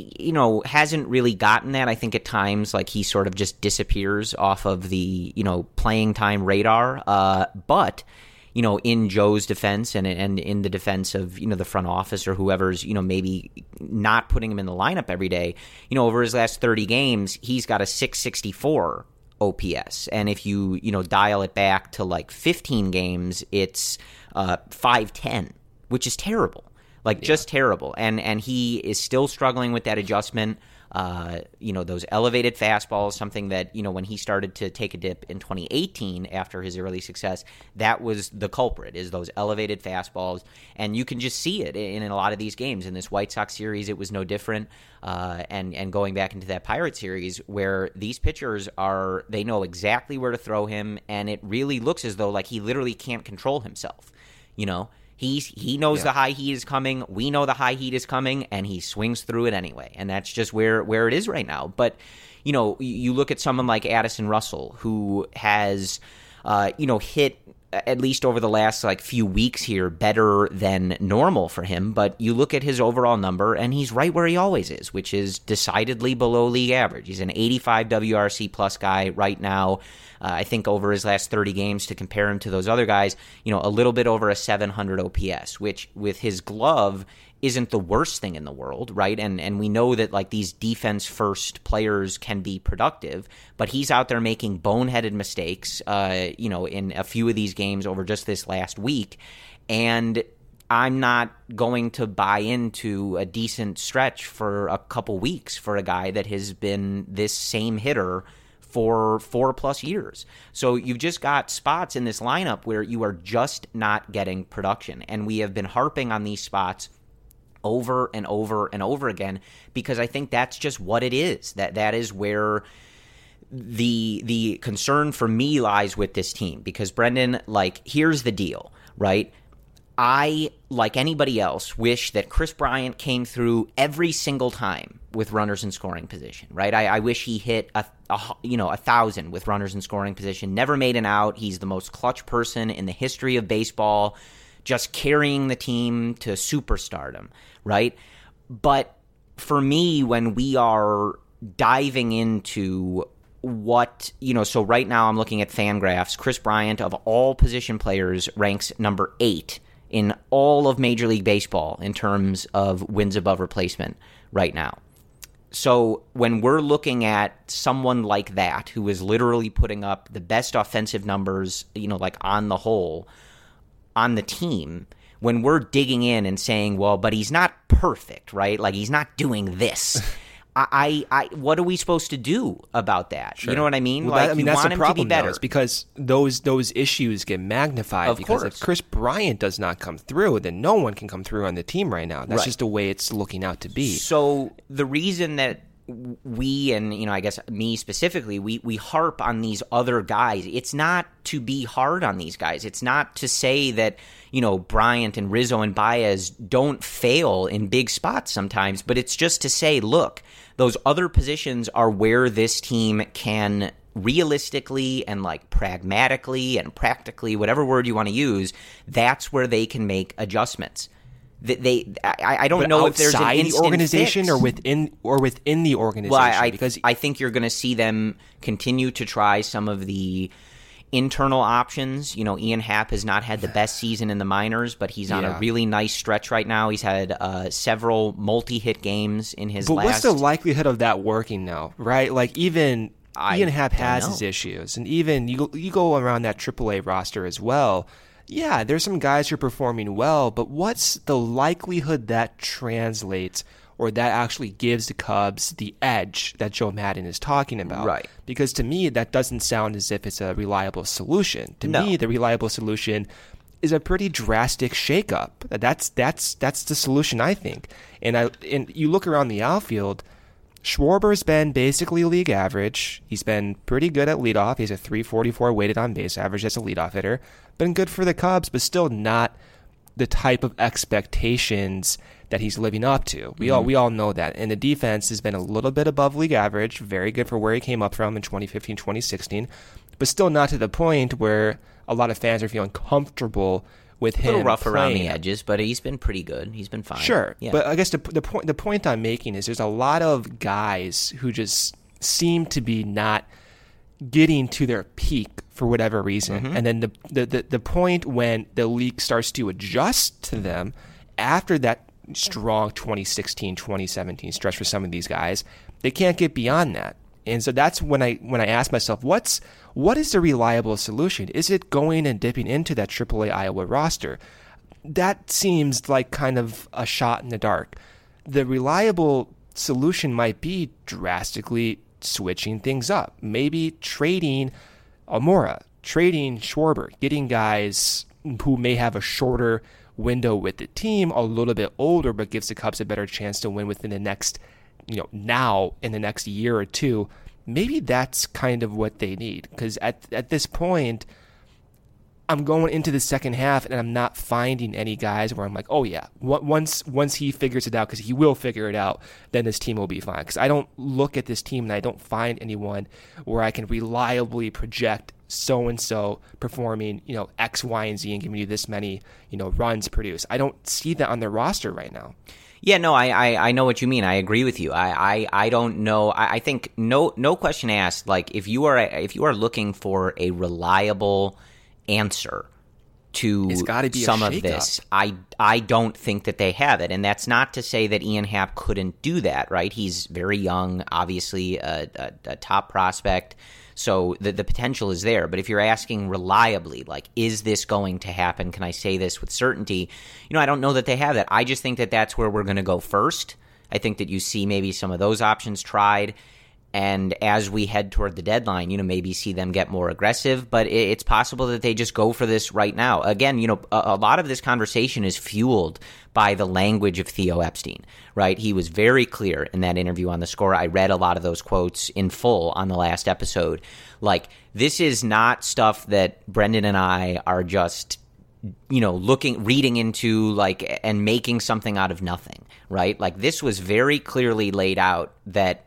hasn't really gotten that. I think at times, he sort of just disappears off of the, playing time radar. But in Joe's defense and in the defense of, the front office or whoever's, maybe not putting him in the lineup every day, over his last 30 games, he's got a 664 OPS. And if you, dial it back to 15 games, it's 510, which is terrible. Just terrible. And he is still struggling with that adjustment. Those elevated fastballs, something that, when he started to take a dip in 2018 after his early success, that was the culprit, is those elevated fastballs. And you can just see it in a lot of these games. In this White Sox series, it was no different. And going back into that Pirate series, where these pitchers they know exactly where to throw him, and it really looks as though he literally can't control himself, He knows the high heat is coming. We know the high heat is coming, and he swings through it anyway. And that's just where it is right now. But, you look at someone like Addison Russell, who has, hit, at least over the last few weeks here, better than normal for him. But you look at his overall number, and he's right where he always is, which is decidedly below league average. He's an 85 WRC plus guy right now. I think over his last 30 games, to compare him to those other guys, a little bit over a 700 OPS, which with his glove isn't the worst thing in the world, right? And we know that these defense-first players can be productive, but he's out there making boneheaded mistakes, in a few of these games over just this last week, and I'm not going to buy into a decent stretch for a couple weeks for a guy that has been this same hitter for 4+ years. So you've just got spots in this lineup where you are just not getting production. And we have been harping on these spots over and over and over again, because I think that's just what it is. That is where the concern for me lies with this team. Because, Brendan, here's the deal, right? I, like anybody else, wish that Chris Bryant came through every single time with runners in scoring position, right? I wish he hit 1,000 with runners in scoring position, never made an out. He's the most clutch person in the history of baseball, just carrying the team to superstardom, right? But for me, when we are diving into what, so right now I'm looking at Fangraphs, Chris Bryant, of all position players, ranks number 8 in all of Major League Baseball in terms of wins above replacement right now. So when we're looking at someone like that, who is literally putting up the best offensive numbers, on the whole, on the team, when we're digging in and saying, well, but he's not perfect, right? He's not doing this. I what are we supposed to do about that? Sure. You know what I mean? Well, you that's want the him problem, to be better. Though, is because those issues get magnified. Of because course. If Chris Bryant does not come through, then no one can come through on the team right now. That's right. just the way it's looking out to be. So the reason that we, and I guess me specifically, we harp on these other guys, it's not to be hard on these guys. It's not to say that Bryant and Rizzo and Baez don't fail in big spots sometimes, but it's just to say, look, those other positions are where this team can realistically and like pragmatically and practically, whatever word you want to use, that's where they can make adjustments. I don't know if there's an instant the organization fix. or within the organization. Well, because I think you're going to see them continue to try some of the internal options. You know, Ian Happ has not had the best season in the minors, but he's on a really nice stretch right now. He's had several multi-hit games in his last. But what's the likelihood of that working now, right? Like Ian Happ has his issues, and even you go around that AAA roster as well. Yeah, there's some guys who are performing well, but what's the likelihood that translates or that actually gives the Cubs the edge that Joe Maddon is talking about? Right. Because to me, that doesn't sound as if it's a reliable solution. To me, the reliable solution is a pretty drastic shakeup. That's the solution, I think. And you look around the outfield, Schwarber's been basically league average. He's been pretty good at leadoff. He's a .344 weighted on base average as a leadoff hitter. Been good for the Cubs, but still not the type of expectations that he's living up to. We all know that. And the defense has been a little bit above league average, very good for where he came up from in 2015, 2016, but still not to the point where a lot of fans are feeling comfortable with him. A little rough playing. around the edges, but he's been pretty good. He's been fine. Sure, yeah. But I guess the point I'm making is there's a lot of guys who just seem to be not getting to their peak for whatever reason, and then the point when the league starts to adjust to them after that strong 2016, 2017 stretch for some of these guys, they can't get beyond that. And so that's when I ask myself, what is the reliable solution? Is it going and dipping into that AAA Iowa roster? That seems like kind of a shot in the dark. The reliable solution might be drastically switching things up. Maybe trading Almora, trading Schwarber, getting guys who may have a shorter window with the team, a little bit older, but gives the Cubs a better chance to win within the next, now in the next year or two. Maybe that's kind of what they need, because at this point, I'm going into the second half and I'm not finding any guys where I'm like, oh yeah, once he figures it out, because he will figure it out, then this team will be fine. Because I don't look at this team and I don't find anyone where I can reliably project so-and-so performing, X, Y, and Z and giving you this many, runs produced. I don't see that on their roster right now. Yeah, no, I know what you mean. I agree with you. I don't know. I think no question asked. Like if you are looking for a reliable answer to some of this, I don't think that they have it. And that's not to say that Ian Happ couldn't do that, right? He's very young, obviously a top prospect. So the potential is there. But if you're asking reliably, like, is this going to happen? Can I say this with certainty? I don't know that they have that. I just think that that's where we're going to go first. I think that you see maybe some of those options tried. And as we head toward the deadline, maybe see them get more aggressive. But it's possible that they just go for this right now. Again, a lot of this conversation is fueled by the language of Theo Epstein, right? He was very clear in that interview on The Score. I read a lot of those quotes in full on the last episode. Like, this is not stuff that Brendan and I are just reading into, like, and making something out of nothing, right? Like, this was very clearly laid out that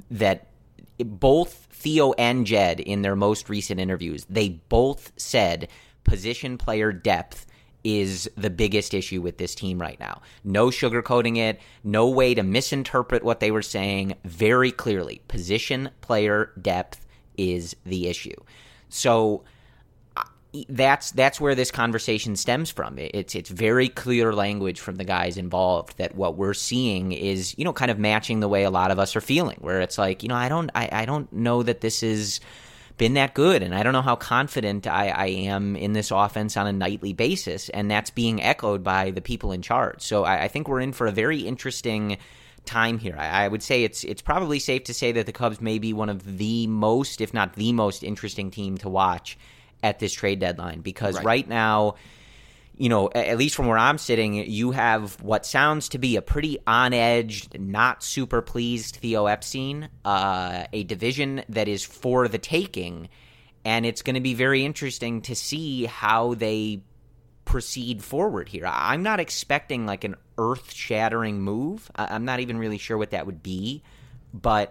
both Theo and Jed, in their most recent interviews, they both said position player depth is the biggest issue with this team right now. No sugarcoating it, no way to misinterpret what they were saying. Very clearly, position player depth is the issue. So that's where this conversation stems from. It's very clear language from the guys involved that what we're seeing is, kind of matching the way a lot of us are feeling, where it's like, I don't know that this has been that good, and I don't know how confident I am in this offense on a nightly basis, and that's being echoed by the people in charge. So I think we're in for a very interesting time here. I would say it's probably safe to say that the Cubs may be one of the most, if not the most interesting team to watch at this trade deadline, because right now, at least from where I'm sitting, you have what sounds to be a pretty on-edge, not super pleased Theo Epstein, a division that is for the taking, and it's going to be very interesting to see how they proceed forward here. I'm not expecting like an earth-shattering move. I'm not even really sure what that would be, but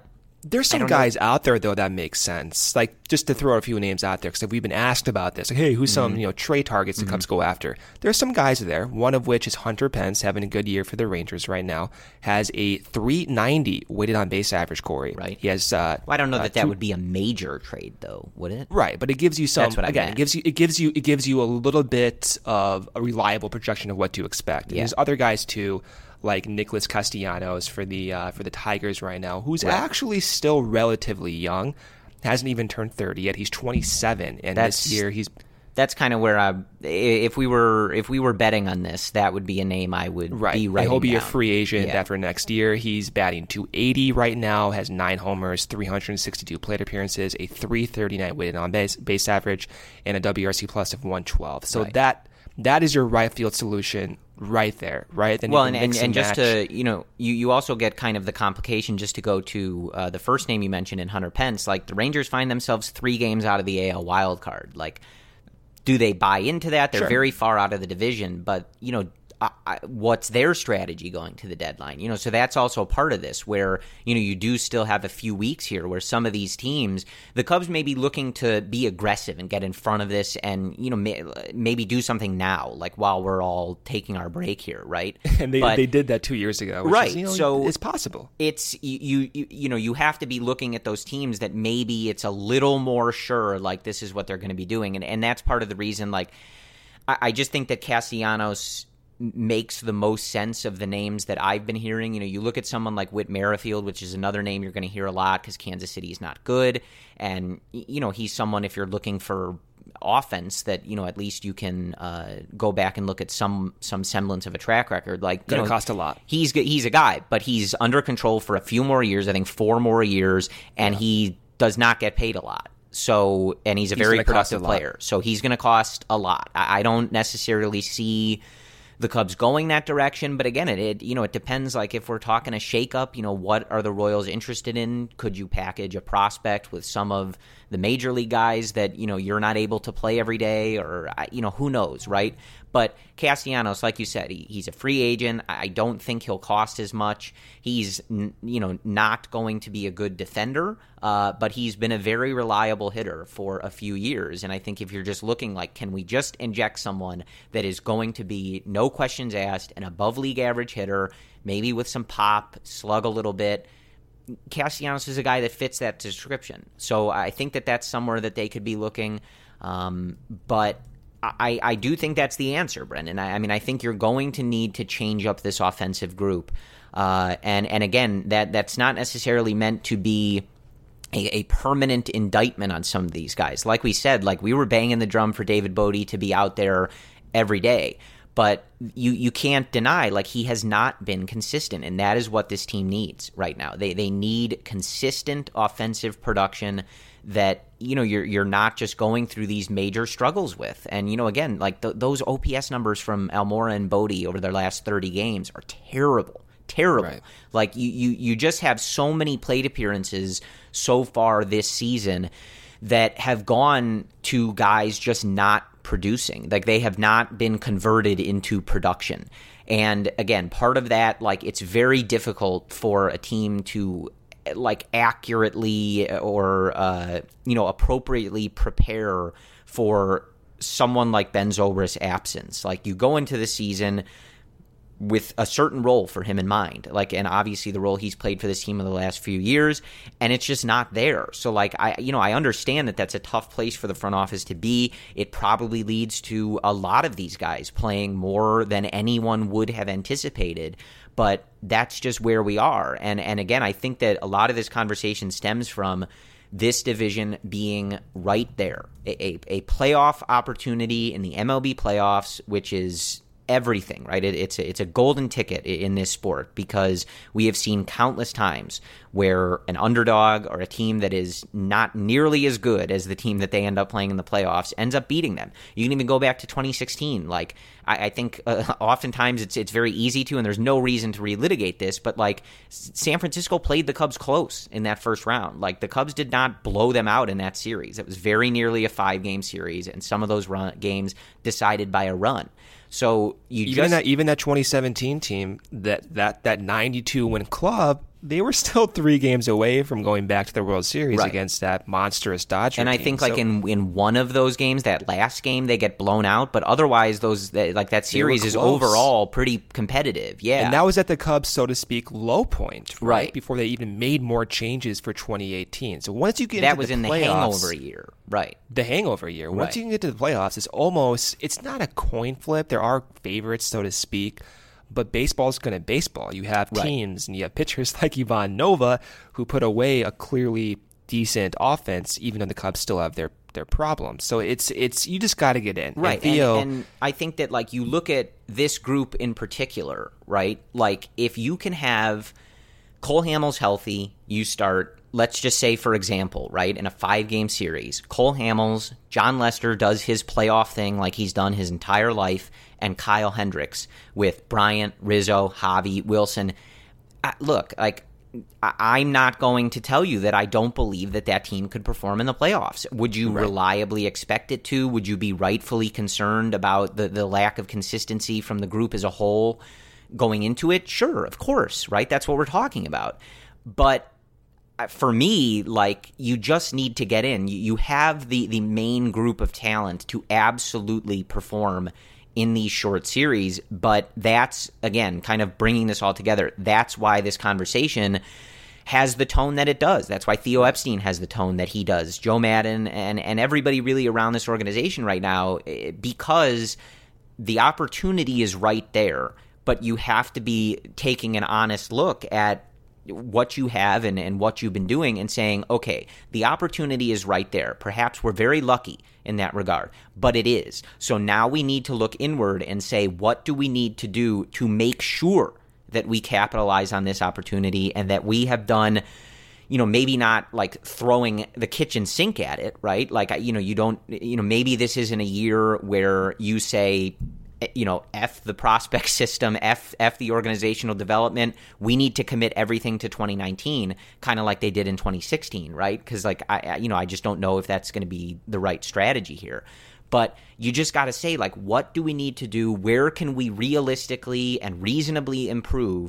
There's some guys out there, though, that make sense. Like, just to throw a few names out there, because we've been asked about this. Like, hey, who's some trade targets the Cubs go after? There's some guys there, one of which is Hunter Pence, having a good year for the Rangers right now, has a .390 weighted on base average, Corey. Right. He has. Well, I don't know that would be a major trade, though, would it? Right, but it gives you some. That's what I again, meant. it gives you a little bit of a reliable projection of what to expect. And there's other guys too, like Nicholas Castellanos for the Tigers right now, who's actually still relatively young, hasn't even turned 30 yet. He's 27, and this year That's kind of where if we were betting on this, that would be a name I would be writing down. He'll be a free agent after next year. He's batting .280 right now, has 9 homers, 362 plate appearances, a .339 weighted on base average, and a WRC plus of 112. So that is your right field solution right there, right? Then well, and just to, you also get kind of the complication, just to go to the first name you mentioned in Hunter Pence. Like, the Rangers find themselves 3 games out of the AL wild card. Like, do they buy into that? They're very far out of the division, but, what's their strategy going to the deadline? So that's also part of this, where, you do still have a few weeks here where some of these teams, the Cubs may be looking to be aggressive and get in front of this and, maybe do something now, like while we're all taking our break here, right? And they did that 2 years ago, which is, so it's possible. It's, you have to be looking at those teams that maybe it's a little more sure, like this is what they're going to be doing. And that's part of the reason, like, I just think that Castellanos makes the most sense of the names that I've been hearing. You look at someone like Whit Merrifield, which is another name you're going to hear a lot because Kansas City is not good. And, he's someone, if you're looking for offense, that, at least you can go back and look at some semblance of a track record. Like, going to cost a lot. He's a guy, but he's under control for a few more years, I think 4 more years, and he does not get paid a lot. So, and he's a very productive player. So he's going to cost a lot. I don't necessarily see the Cubs going that direction, but again, it depends. Like, if we're talking a shakeup, what are the Royals interested in? Could you package a prospect with some of the major league guys that you're not able to play every day, or who knows, right? But Castellanos, like you said, he's a free agent. I don't think he'll cost as much. He's not going to be a good defender, but he's been a very reliable hitter for a few years. And I think if you're just looking like, can we just inject someone that is going to be, no questions asked, an above league average hitter, maybe with some pop, slug a little bit, Castellanos is a guy that fits that description. So I think that that's somewhere that they could be looking. But I do think that's the answer, Brendan. I mean, I think you're going to need to change up this offensive group. And again, that's not necessarily meant to be a permanent indictment on some of these guys. Like we said, like, we were banging the drum for David Bodie to be out there every day. But you can't deny, like, he has not been consistent, and that is what this team needs right now. They need consistent offensive production that, you're not just going through these major struggles with. And, again, like, those OPS numbers from Almora and Bodie over their last 30 games are terrible. Right. Like, you just have so many plate appearances so far this season that have gone to guys just not producing. Like, they have not been converted into production. And again, part of that, like, it's very difficult for a team to, like, accurately or appropriately prepare for someone like Ben Zobrist's absence. Like, you go into the season with a certain role for him in mind, like, and obviously the role he's played for this team in the last few years, and it's just not there. So, like, I understand that that's a tough place for the front office to be. It probably leads to a lot of these guys playing more than anyone would have anticipated, but that's just where we are. And again, I think that a lot of this conversation stems from this division being right there, a playoff opportunity in the MLB playoffs, which is everything, right? It's a golden ticket in this sport, because we have seen countless times where an underdog or a team that is not nearly as good as the team that they end up playing in the playoffs ends up beating them. You can even go back to 2016. Like, I think oftentimes it's very easy to, and there's no reason to relitigate this, but, like, San Francisco played the Cubs close in that first round. Like, the Cubs did not blow them out in that series. It was very nearly a 5-game series, and some of those games decided by a run. So even that 2017 team, that 92 win club, they were still 3 games away from going back to the World Series against that monstrous Dodger And I team. think like in one of those games, that last game, they get blown out. But otherwise, that series is overall pretty competitive. Yeah. And that was at the Cubs, so to speak, low point, right? Before they even made more changes for 2018. So once you get into the playoffs, the hangover year. Right. The hangover year. Once you can get to the playoffs, it's not a coin flip. There are favorites, so to speak. But baseball's going to baseball. You have teams and you have pitchers like Ivan Nova who put away a clearly decent offense, even though the Cubs still have their problems. So it's you just got to get in. Right. And Theo, and I think that like you look at this group in particular, right? Like if you can have Cole Hamels healthy, you start, let's just say, for example, right, in a 5-game series, Cole Hamels, John Lester does his playoff thing like he's done his entire life, and Kyle Hendricks with Bryant, Rizzo, Javi, Wilson. Look, like, I'm not going to tell you that I don't believe that team could perform in the playoffs. Would you reliably expect it to? Would you be rightfully concerned about the lack of consistency from the group as a whole going into it? Sure, of course, right? That's what we're talking about. But for me, like, you just need to get in. You have the main group of talent to absolutely perform in these short series, but that's, again, kind of bringing this all together. That's why this conversation has the tone that it does. That's why Theo Epstein has the tone that he does, Joe Maddon, and everybody really around this organization right now, because the opportunity is right there, but you have to be taking an honest look at what you have and what you've been doing and saying, okay, the opportunity is right there. Perhaps we're very lucky in that regard, but it is. So now we need to look inward and say, what do we need to do to make sure that we capitalize on this opportunity and that we have done, maybe not like throwing the kitchen sink at it, right? Like, you don't, maybe this isn't a year where you say, F the prospect system, F the organizational development. We need to commit everything to 2019, kind of like they did in 2016, right? Because I just don't know if that's going to be the right strategy here. But you just got to say, like, what do we need to do? Where can we realistically and reasonably improve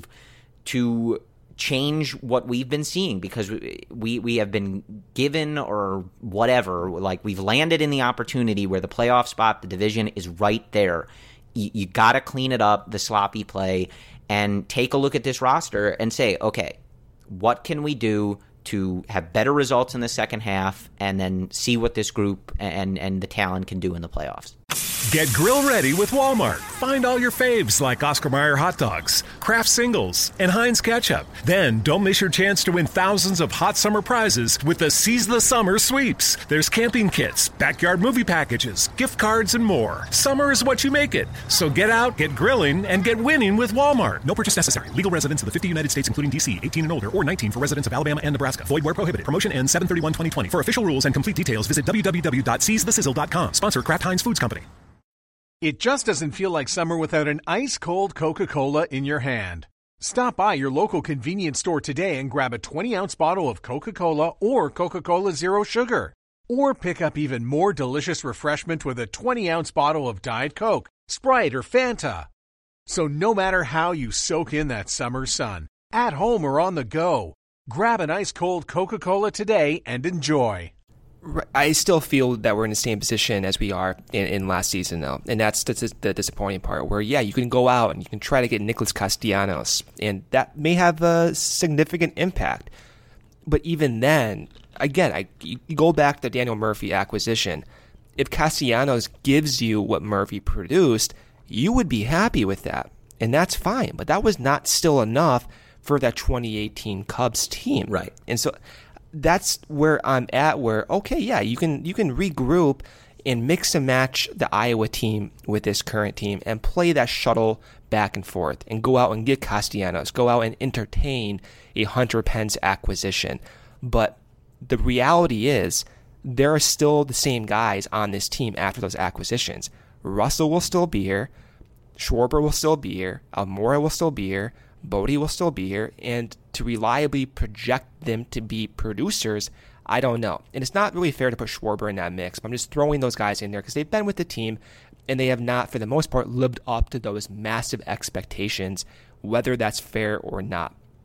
to change what we've been seeing? Because we have been given, or whatever, like, we've landed in the opportunity where the playoff spot, the division is right there. You got to clean it up, the sloppy play, and take a look at this roster and say, okay, what can we do to have better results in the second half, and then see what this group and the talent can do in the playoffs. Get grill ready with Walmart. Find all your faves like Oscar Mayer hot dogs, Kraft Singles, and Heinz ketchup. Then don't miss your chance to win thousands of hot summer prizes with the Seize the Summer sweeps. There's camping kits, backyard movie packages, gift cards, and more. Summer is what you make it. So get out, get grilling, and get winning with Walmart. No purchase necessary. Legal residents of the 50 United States, including D.C., 18 and older, or 19 for residents of Alabama and Nebraska. Void where prohibited. Promotion ends 7/31/2020. For official rules and complete details, visit www.seizethesizzle.com. Sponsor Kraft Heinz Foods Company. It just doesn't feel like summer without an ice-cold Coca-Cola in your hand. Stop by your local convenience store today and grab a 20-ounce bottle of Coca-Cola or Coca-Cola Zero Sugar. Or pick up even more delicious refreshment with a 20-ounce bottle of Diet Coke, Sprite, or Fanta. So no matter how you soak in that summer sun, at home or on the go, grab an ice-cold Coca-Cola today and enjoy. I still feel that we're in the same position as we are in last season, though. And that's the disappointing part, where, yeah, you can go out and you can try to get Nicholas Castellanos, and that may have a significant impact. But even then, again, you go back to the Daniel Murphy acquisition. If Castellanos gives you what Murphy produced, you would be happy with that. And that's fine. But that was not still enough for that 2018 Cubs team. Right. And so that's where I'm at, where, okay, yeah, you can regroup and mix and match the Iowa team with this current team and play that shuttle back and forth and go out and get Castellanos, go out and entertain a Hunter Pence acquisition. But the reality is there are still the same guys on this team after those acquisitions. Russell will still be here. Schwarber will still be here. Almora will still be here. Bodie will still be here, and to reliably project them to be producers, I don't know. And it's not really fair to put Schwarber in that mix, but I'm just throwing those guys in there because they've been with the team, and they have not, for the most part, lived up to those massive expectations, whether that's fair or not.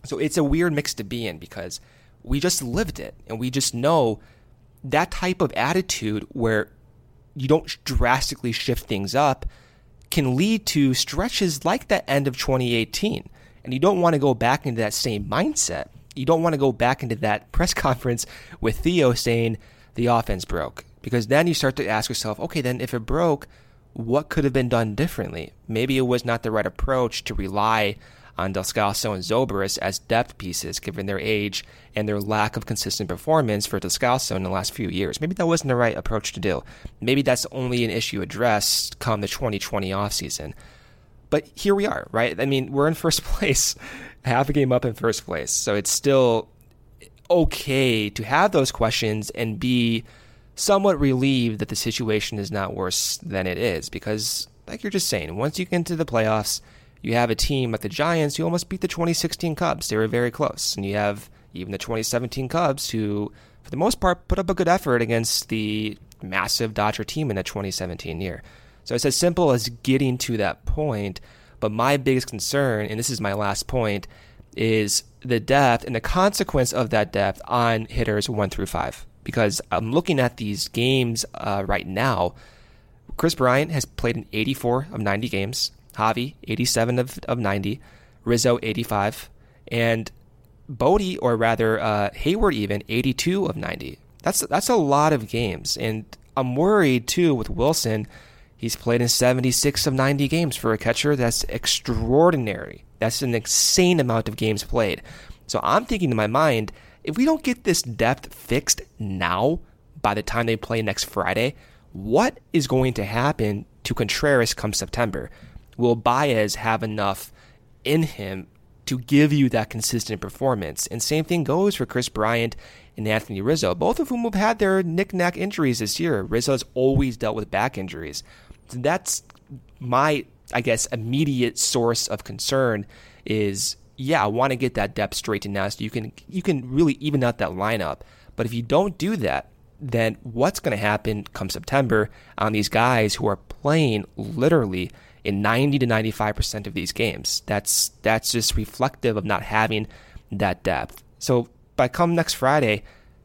So it's a weird mix to be in because we just lived it, and we just know that type of attitude where you don't drastically shift things up can lead to stretches like that end of 2018. And you don't want to go back into that same mindset. You don't want to go back into that press conference with Theo saying the offense broke. Because then you start to ask yourself, okay, then if it broke, what could have been done differently? Maybe it was not the right approach to rely on Descalso and Zobrist as depth pieces, given their age and their lack of consistent performance for Descalso in the last few years. Maybe that wasn't the right approach to do. Maybe that's only an issue addressed come the 2020 offseason. But here we are, right? I mean, we're in first place, half a game up in first place. So it's still okay to have those questions and be somewhat relieved that the situation is not worse than it is. Because, like you're just saying, once you get into the playoffs, you have a team like the Giants who almost beat the 2016 Cubs. They were very close. And you have even the 2017 Cubs who, for the most part, put up a good effort against the massive Dodger team in the 2017 year. So it's as simple as getting to that point. But my biggest concern, and this is my last point, is the depth and the consequence of that depth on hitters 1 through 5. Because I'm looking at these games right now. Kris Bryant has played in 84 of 90 games. Javi, 87 of 90. Rizzo, 85. And Bodie, or rather Hayward even, 82 of 90. That's a lot of games. And I'm worried, too, with Wilson. He's played in 76 of 90 games for a catcher. That's extraordinary. That's an insane amount of games played. So I'm thinking in my mind, if we don't get this depth fixed now, by the time they play next Friday, what is going to happen to Contreras come September? Will Baez have enough in him to give you that consistent performance? And same thing goes for Kris Bryant and Anthony Rizzo, both of whom have had their knick-knack injuries this year. Rizzo's always dealt with back injuries. So that's my, I guess, immediate source of concern is, yeah, I want to get that depth straightened out so you can really even out that lineup. But if you don't do that, then what's going to happen come September on these guys who are playing literally in 90 to 95% of these games? That's just reflective of not having that depth. So by come next Friday,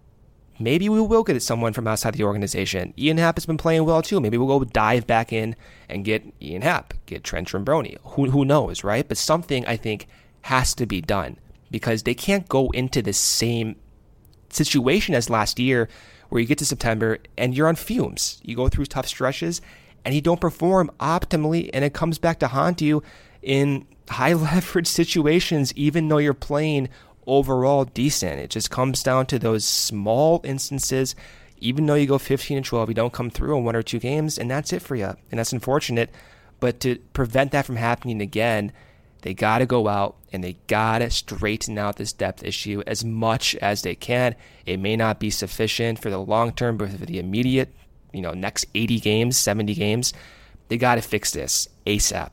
maybe we will get someone from outside the organization. Ian Happ has been playing well too. Maybe we'll go dive back in and get Ian Happ, get Trent Trombroni. Who knows, right? But something, I think, has to be done because they can't go into the same situation as last year where you get to September and you're on fumes. You go through tough stretches and you don't perform optimally, and it comes back to haunt you in high leverage situations, even though you're playing overall decent. It just comes down to those small instances. Even though you go 15-12, you don't come through in 1 or 2 games, and that's it for you. And that's unfortunate. But to prevent that from happening again, they got to go out and they got to straighten out this depth issue as much as they can. It may not be sufficient for the long term, but for the immediate, next 80 games, 70 games, they got to fix this ASAP.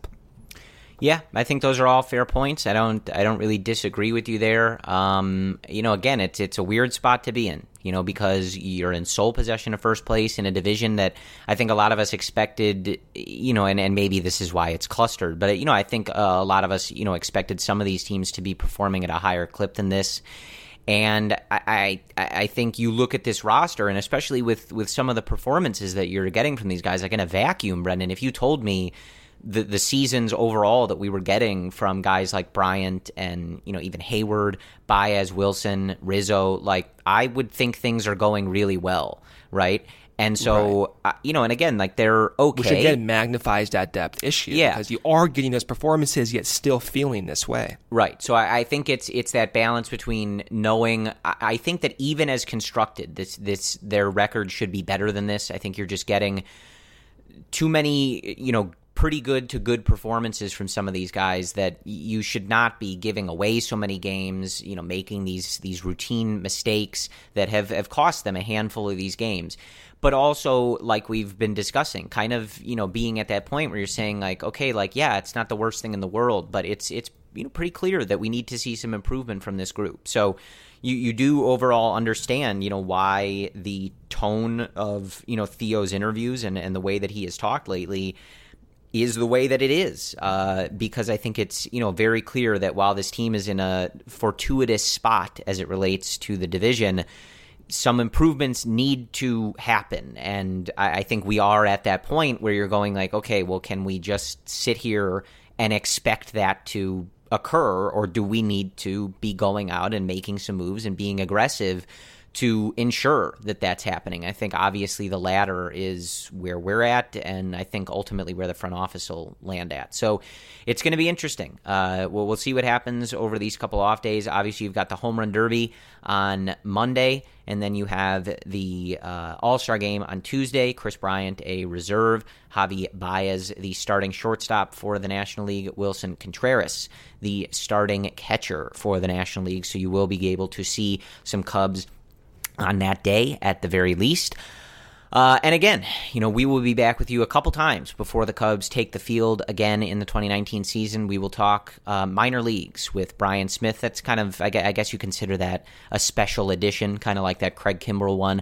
Yeah, I think those are all fair points. I don't really disagree with you there. Again, it's a weird spot to be in, because you're in sole possession of first place in a division that I think a lot of us expected, and maybe this is why it's clustered, but I think a lot of us, expected some of these teams to be performing at a higher clip than this. And I think you look at this roster, and especially with some of the performances that you're getting from these guys, like in a vacuum, Brendan, if you told me the seasons overall that we were getting from guys like Bryant and, even Hayward, Baez, Wilson, Rizzo, like I would think things are going really well, right? And so, right. And again, like they're okay. Which again magnifies that depth issue. Yeah. Because you are getting those performances, yet still feeling this way. Right. So I think it's that balance between knowing. I think that even as constructed, their record should be better than this. I think you're just getting too many, pretty good to good performances from some of these guys that you should not be giving away so many games, making these routine mistakes that have cost them a handful of these games. But also, like we've been discussing, kind of, being at that point where you're saying like, okay, like, yeah, it's not the worst thing in the world, but it's pretty clear that we need to see some improvement from this group. So you do overall understand, why the tone of, Theo's interviews and the way that he has talked lately is the way that it is, because I think it's, very clear that while this team is in a fortuitous spot as it relates to the division, some improvements need to happen. And I think we are at that point where you're going like, okay, well, can we just sit here and expect that to occur, or do we need to be going out and making some moves and being aggressive to ensure that that's happening? I think obviously the latter is where we're at, and I think ultimately where the front office will land at. So it's going to be interesting. We'll see what happens over these couple off days. Obviously, you've got the Home Run Derby on Monday, and then you have the All-Star Game on Tuesday. Chris Bryant, a reserve. Javi Baez, the starting shortstop for the National League. Wilson Contreras, the starting catcher for the National League. So you will be able to see some Cubs on that day at the very least. And again, we will be back with you a couple times before the Cubs take the field again in the 2019 season. We will talk minor leagues with Brian Smith. That's kind of, I guess you consider that a special edition, kind of like that Craig Kimbrell one.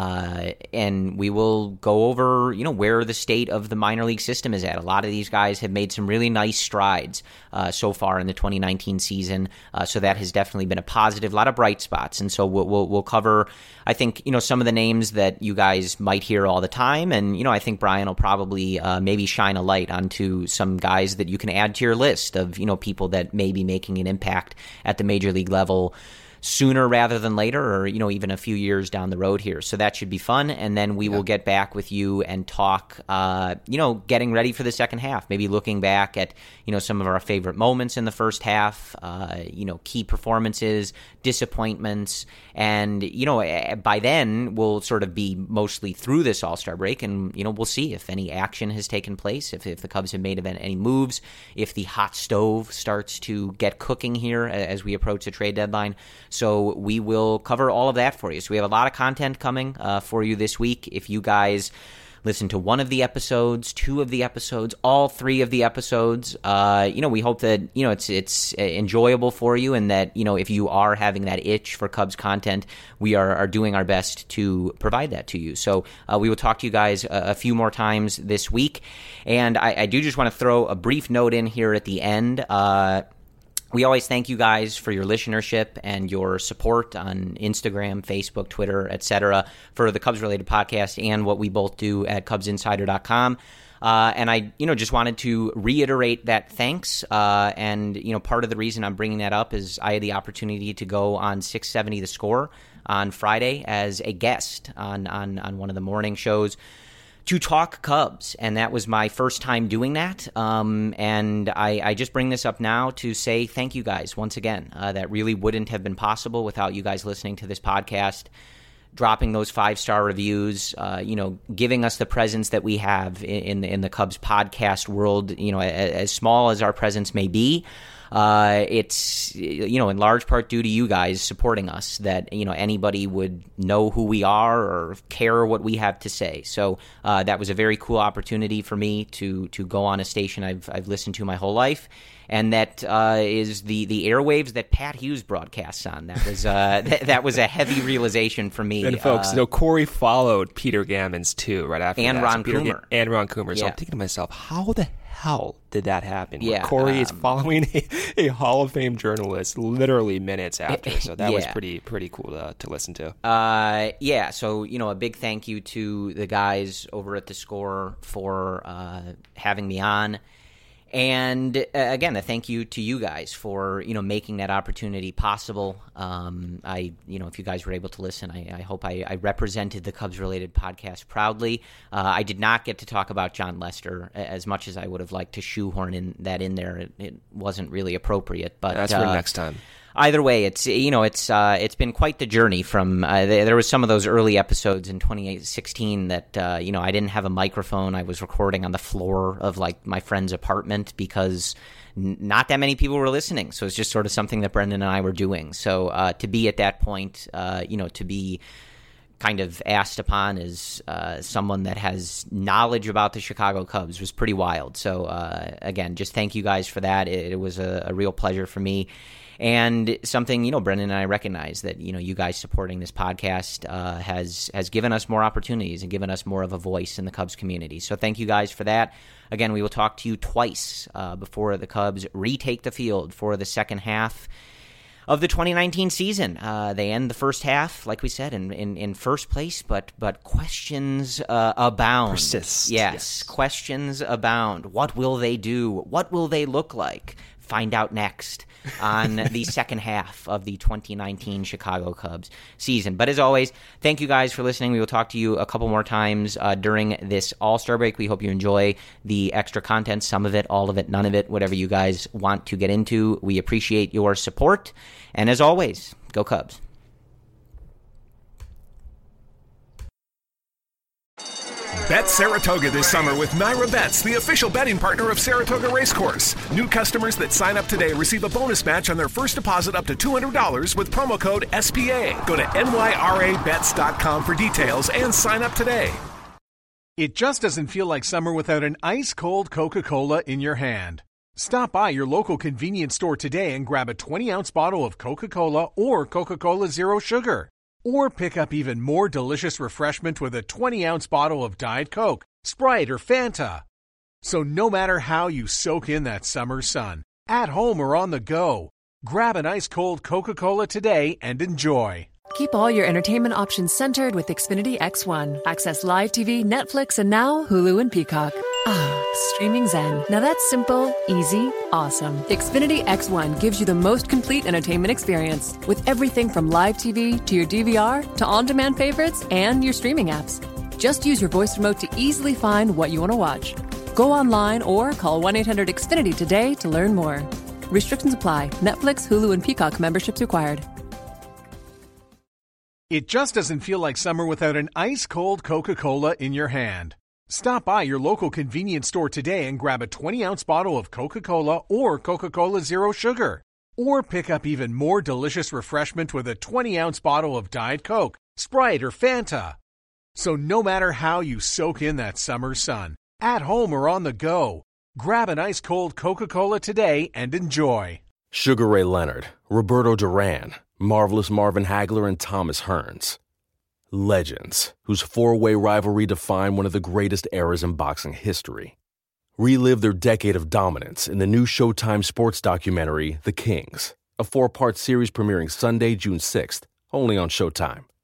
And we will go over, where the state of the minor league system is at. A lot of these guys have made some really nice strides so far in the 2019 season. So that has definitely been a positive, a lot of bright spots. And so we'll cover, I think, some of the names that you guys might hear all the time. And, I think Brian will probably maybe shine a light onto some guys that you can add to your list of, people that may be making an impact at the major league level sooner rather than later, or even a few years down the road here. So that should be fun. And then we will get back with you and talk getting ready for the second half, maybe looking back at some of our favorite moments in the first half, key performances, disappointments, and by then we'll sort of be mostly through this All-Star break, and we'll see if any action has taken place, if the Cubs have made any moves, if the hot stove starts to get cooking here as we approach the trade deadline. So we will cover all of that for you. So we have a lot of content coming for you this week. If you guys listen to one of the episodes, two of the episodes, all three of the episodes, we hope that it's enjoyable for you, and that if you are having that itch for Cubs content, we are doing our best to provide that to you. So we will talk to you guys a few more times this week, and I do just want to throw a brief note in here at the end. We always thank you guys for your listenership and your support on Instagram, Facebook, Twitter, etc. for the Cubs-related podcast and what we both do at CubsInsider.com. And I, just wanted to reiterate that thanks. And part of the reason I'm bringing that up is I had the opportunity to go on 670 The Score on Friday as a guest on one of the morning shows to talk Cubs, and that was my first time doing that. And I just bring this up now to say thank you guys once again. That really wouldn't have been possible without you guys listening to this podcast, dropping those 5-star reviews, giving us the presence that we have in the Cubs podcast world. As small as our presence may be, it's in large part due to you guys supporting us that anybody would know who we are or care what we have to say. So that was a very cool opportunity for me to go on a station I've listened to my whole life, and that is the airwaves that Pat Hughes broadcasts on. That was that was a heavy realization for me. And folks, Corey followed Peter Gammons too right after and that. Ron Coomer. And Ron Coomer. So yeah. I'm thinking to myself, how the hell did that happen? Yeah, Corey is following a Hall of Fame journalist literally minutes after. So that was pretty cool to listen to. So a big thank you to the guys over at The Score for having me on. And again, a thank you to you guys for making that opportunity possible. If you guys were able to listen, I hope I represented the Cubs-related podcast proudly. I did not get to talk about John Lester as much as I would have liked to shoehorn in there. It wasn't really appropriate, but that's for next time. Either way, it's been quite the journey from there was some of those early episodes in 2016 that I didn't have a microphone. I was recording on the floor of my friend's apartment because not that many people were listening. So it's just sort of something that Brendan and I were doing. So to be at that point, to be kind of asked upon as someone that has knowledge about the Chicago Cubs was pretty wild. So again, just thank you guys for that. It was a real pleasure for me. And something, Brendan and I recognize that, you guys supporting this podcast has given us more opportunities and given us more of a voice in the Cubs community. So thank you guys for that. Again, we will talk to you twice before the Cubs retake the field for the second half of the 2019 season. They end the first half, like we said, in first place, but questions abound. Persist. Yes, questions abound. What will they do? What will they look like? Find out next on the second half of the 2019 Chicago Cubs season. But as always, thank you guys for listening. We will talk to you a couple more times during this All-Star break. We hope you enjoy the extra content, some of it, all of it, none of it, whatever you guys want to get into. We appreciate your support. And as always, go Cubs. Bet Saratoga this summer with Naira Bets, the official betting partner of Saratoga Racecourse. New customers that sign up today receive a bonus match on their first deposit up to $200 with promo code SPA. Go to nyrabets.com for details and sign up today. It just doesn't feel like summer without an ice-cold Coca-Cola in your hand. Stop by your local convenience store today and grab a 20-ounce bottle of Coca-Cola or Coca-Cola Zero Sugar. Or pick up even more delicious refreshment with a 20-ounce bottle of Diet Coke, Sprite, or Fanta. So no matter how you soak in that summer sun, at home or on the go, grab an ice-cold Coca-Cola today and enjoy. Keep all your entertainment options centered with Xfinity X1. Access live TV, Netflix, and now Hulu and Peacock. Streaming zen. Now that's simple, easy, awesome. Xfinity X1 gives you the most complete entertainment experience with everything from live TV to your DVR to on-demand favorites and your streaming apps. Just use your voice remote to easily find what you want to watch. Go online or call 1-800-XFINITY today to learn more. Restrictions apply. Netflix, Hulu, and Peacock memberships required. It just doesn't feel like summer without an ice-cold Coca-Cola in your hand. Stop by your local convenience store today and grab a 20-ounce bottle of Coca-Cola or Coca-Cola Zero Sugar. Or pick up even more delicious refreshment with a 20-ounce bottle of Diet Coke, Sprite, or Fanta. So no matter how you soak in that summer sun, at home or on the go, grab an ice-cold Coca-Cola today and enjoy. Sugar Ray Leonard, Roberto Duran, Marvelous Marvin Hagler, and Thomas Hearns. Legends, whose four-way rivalry defined one of the greatest eras in boxing history. Relive their decade of dominance in the new Showtime sports documentary, The Kings, a 4-part series premiering Sunday, June 6th, only on Showtime.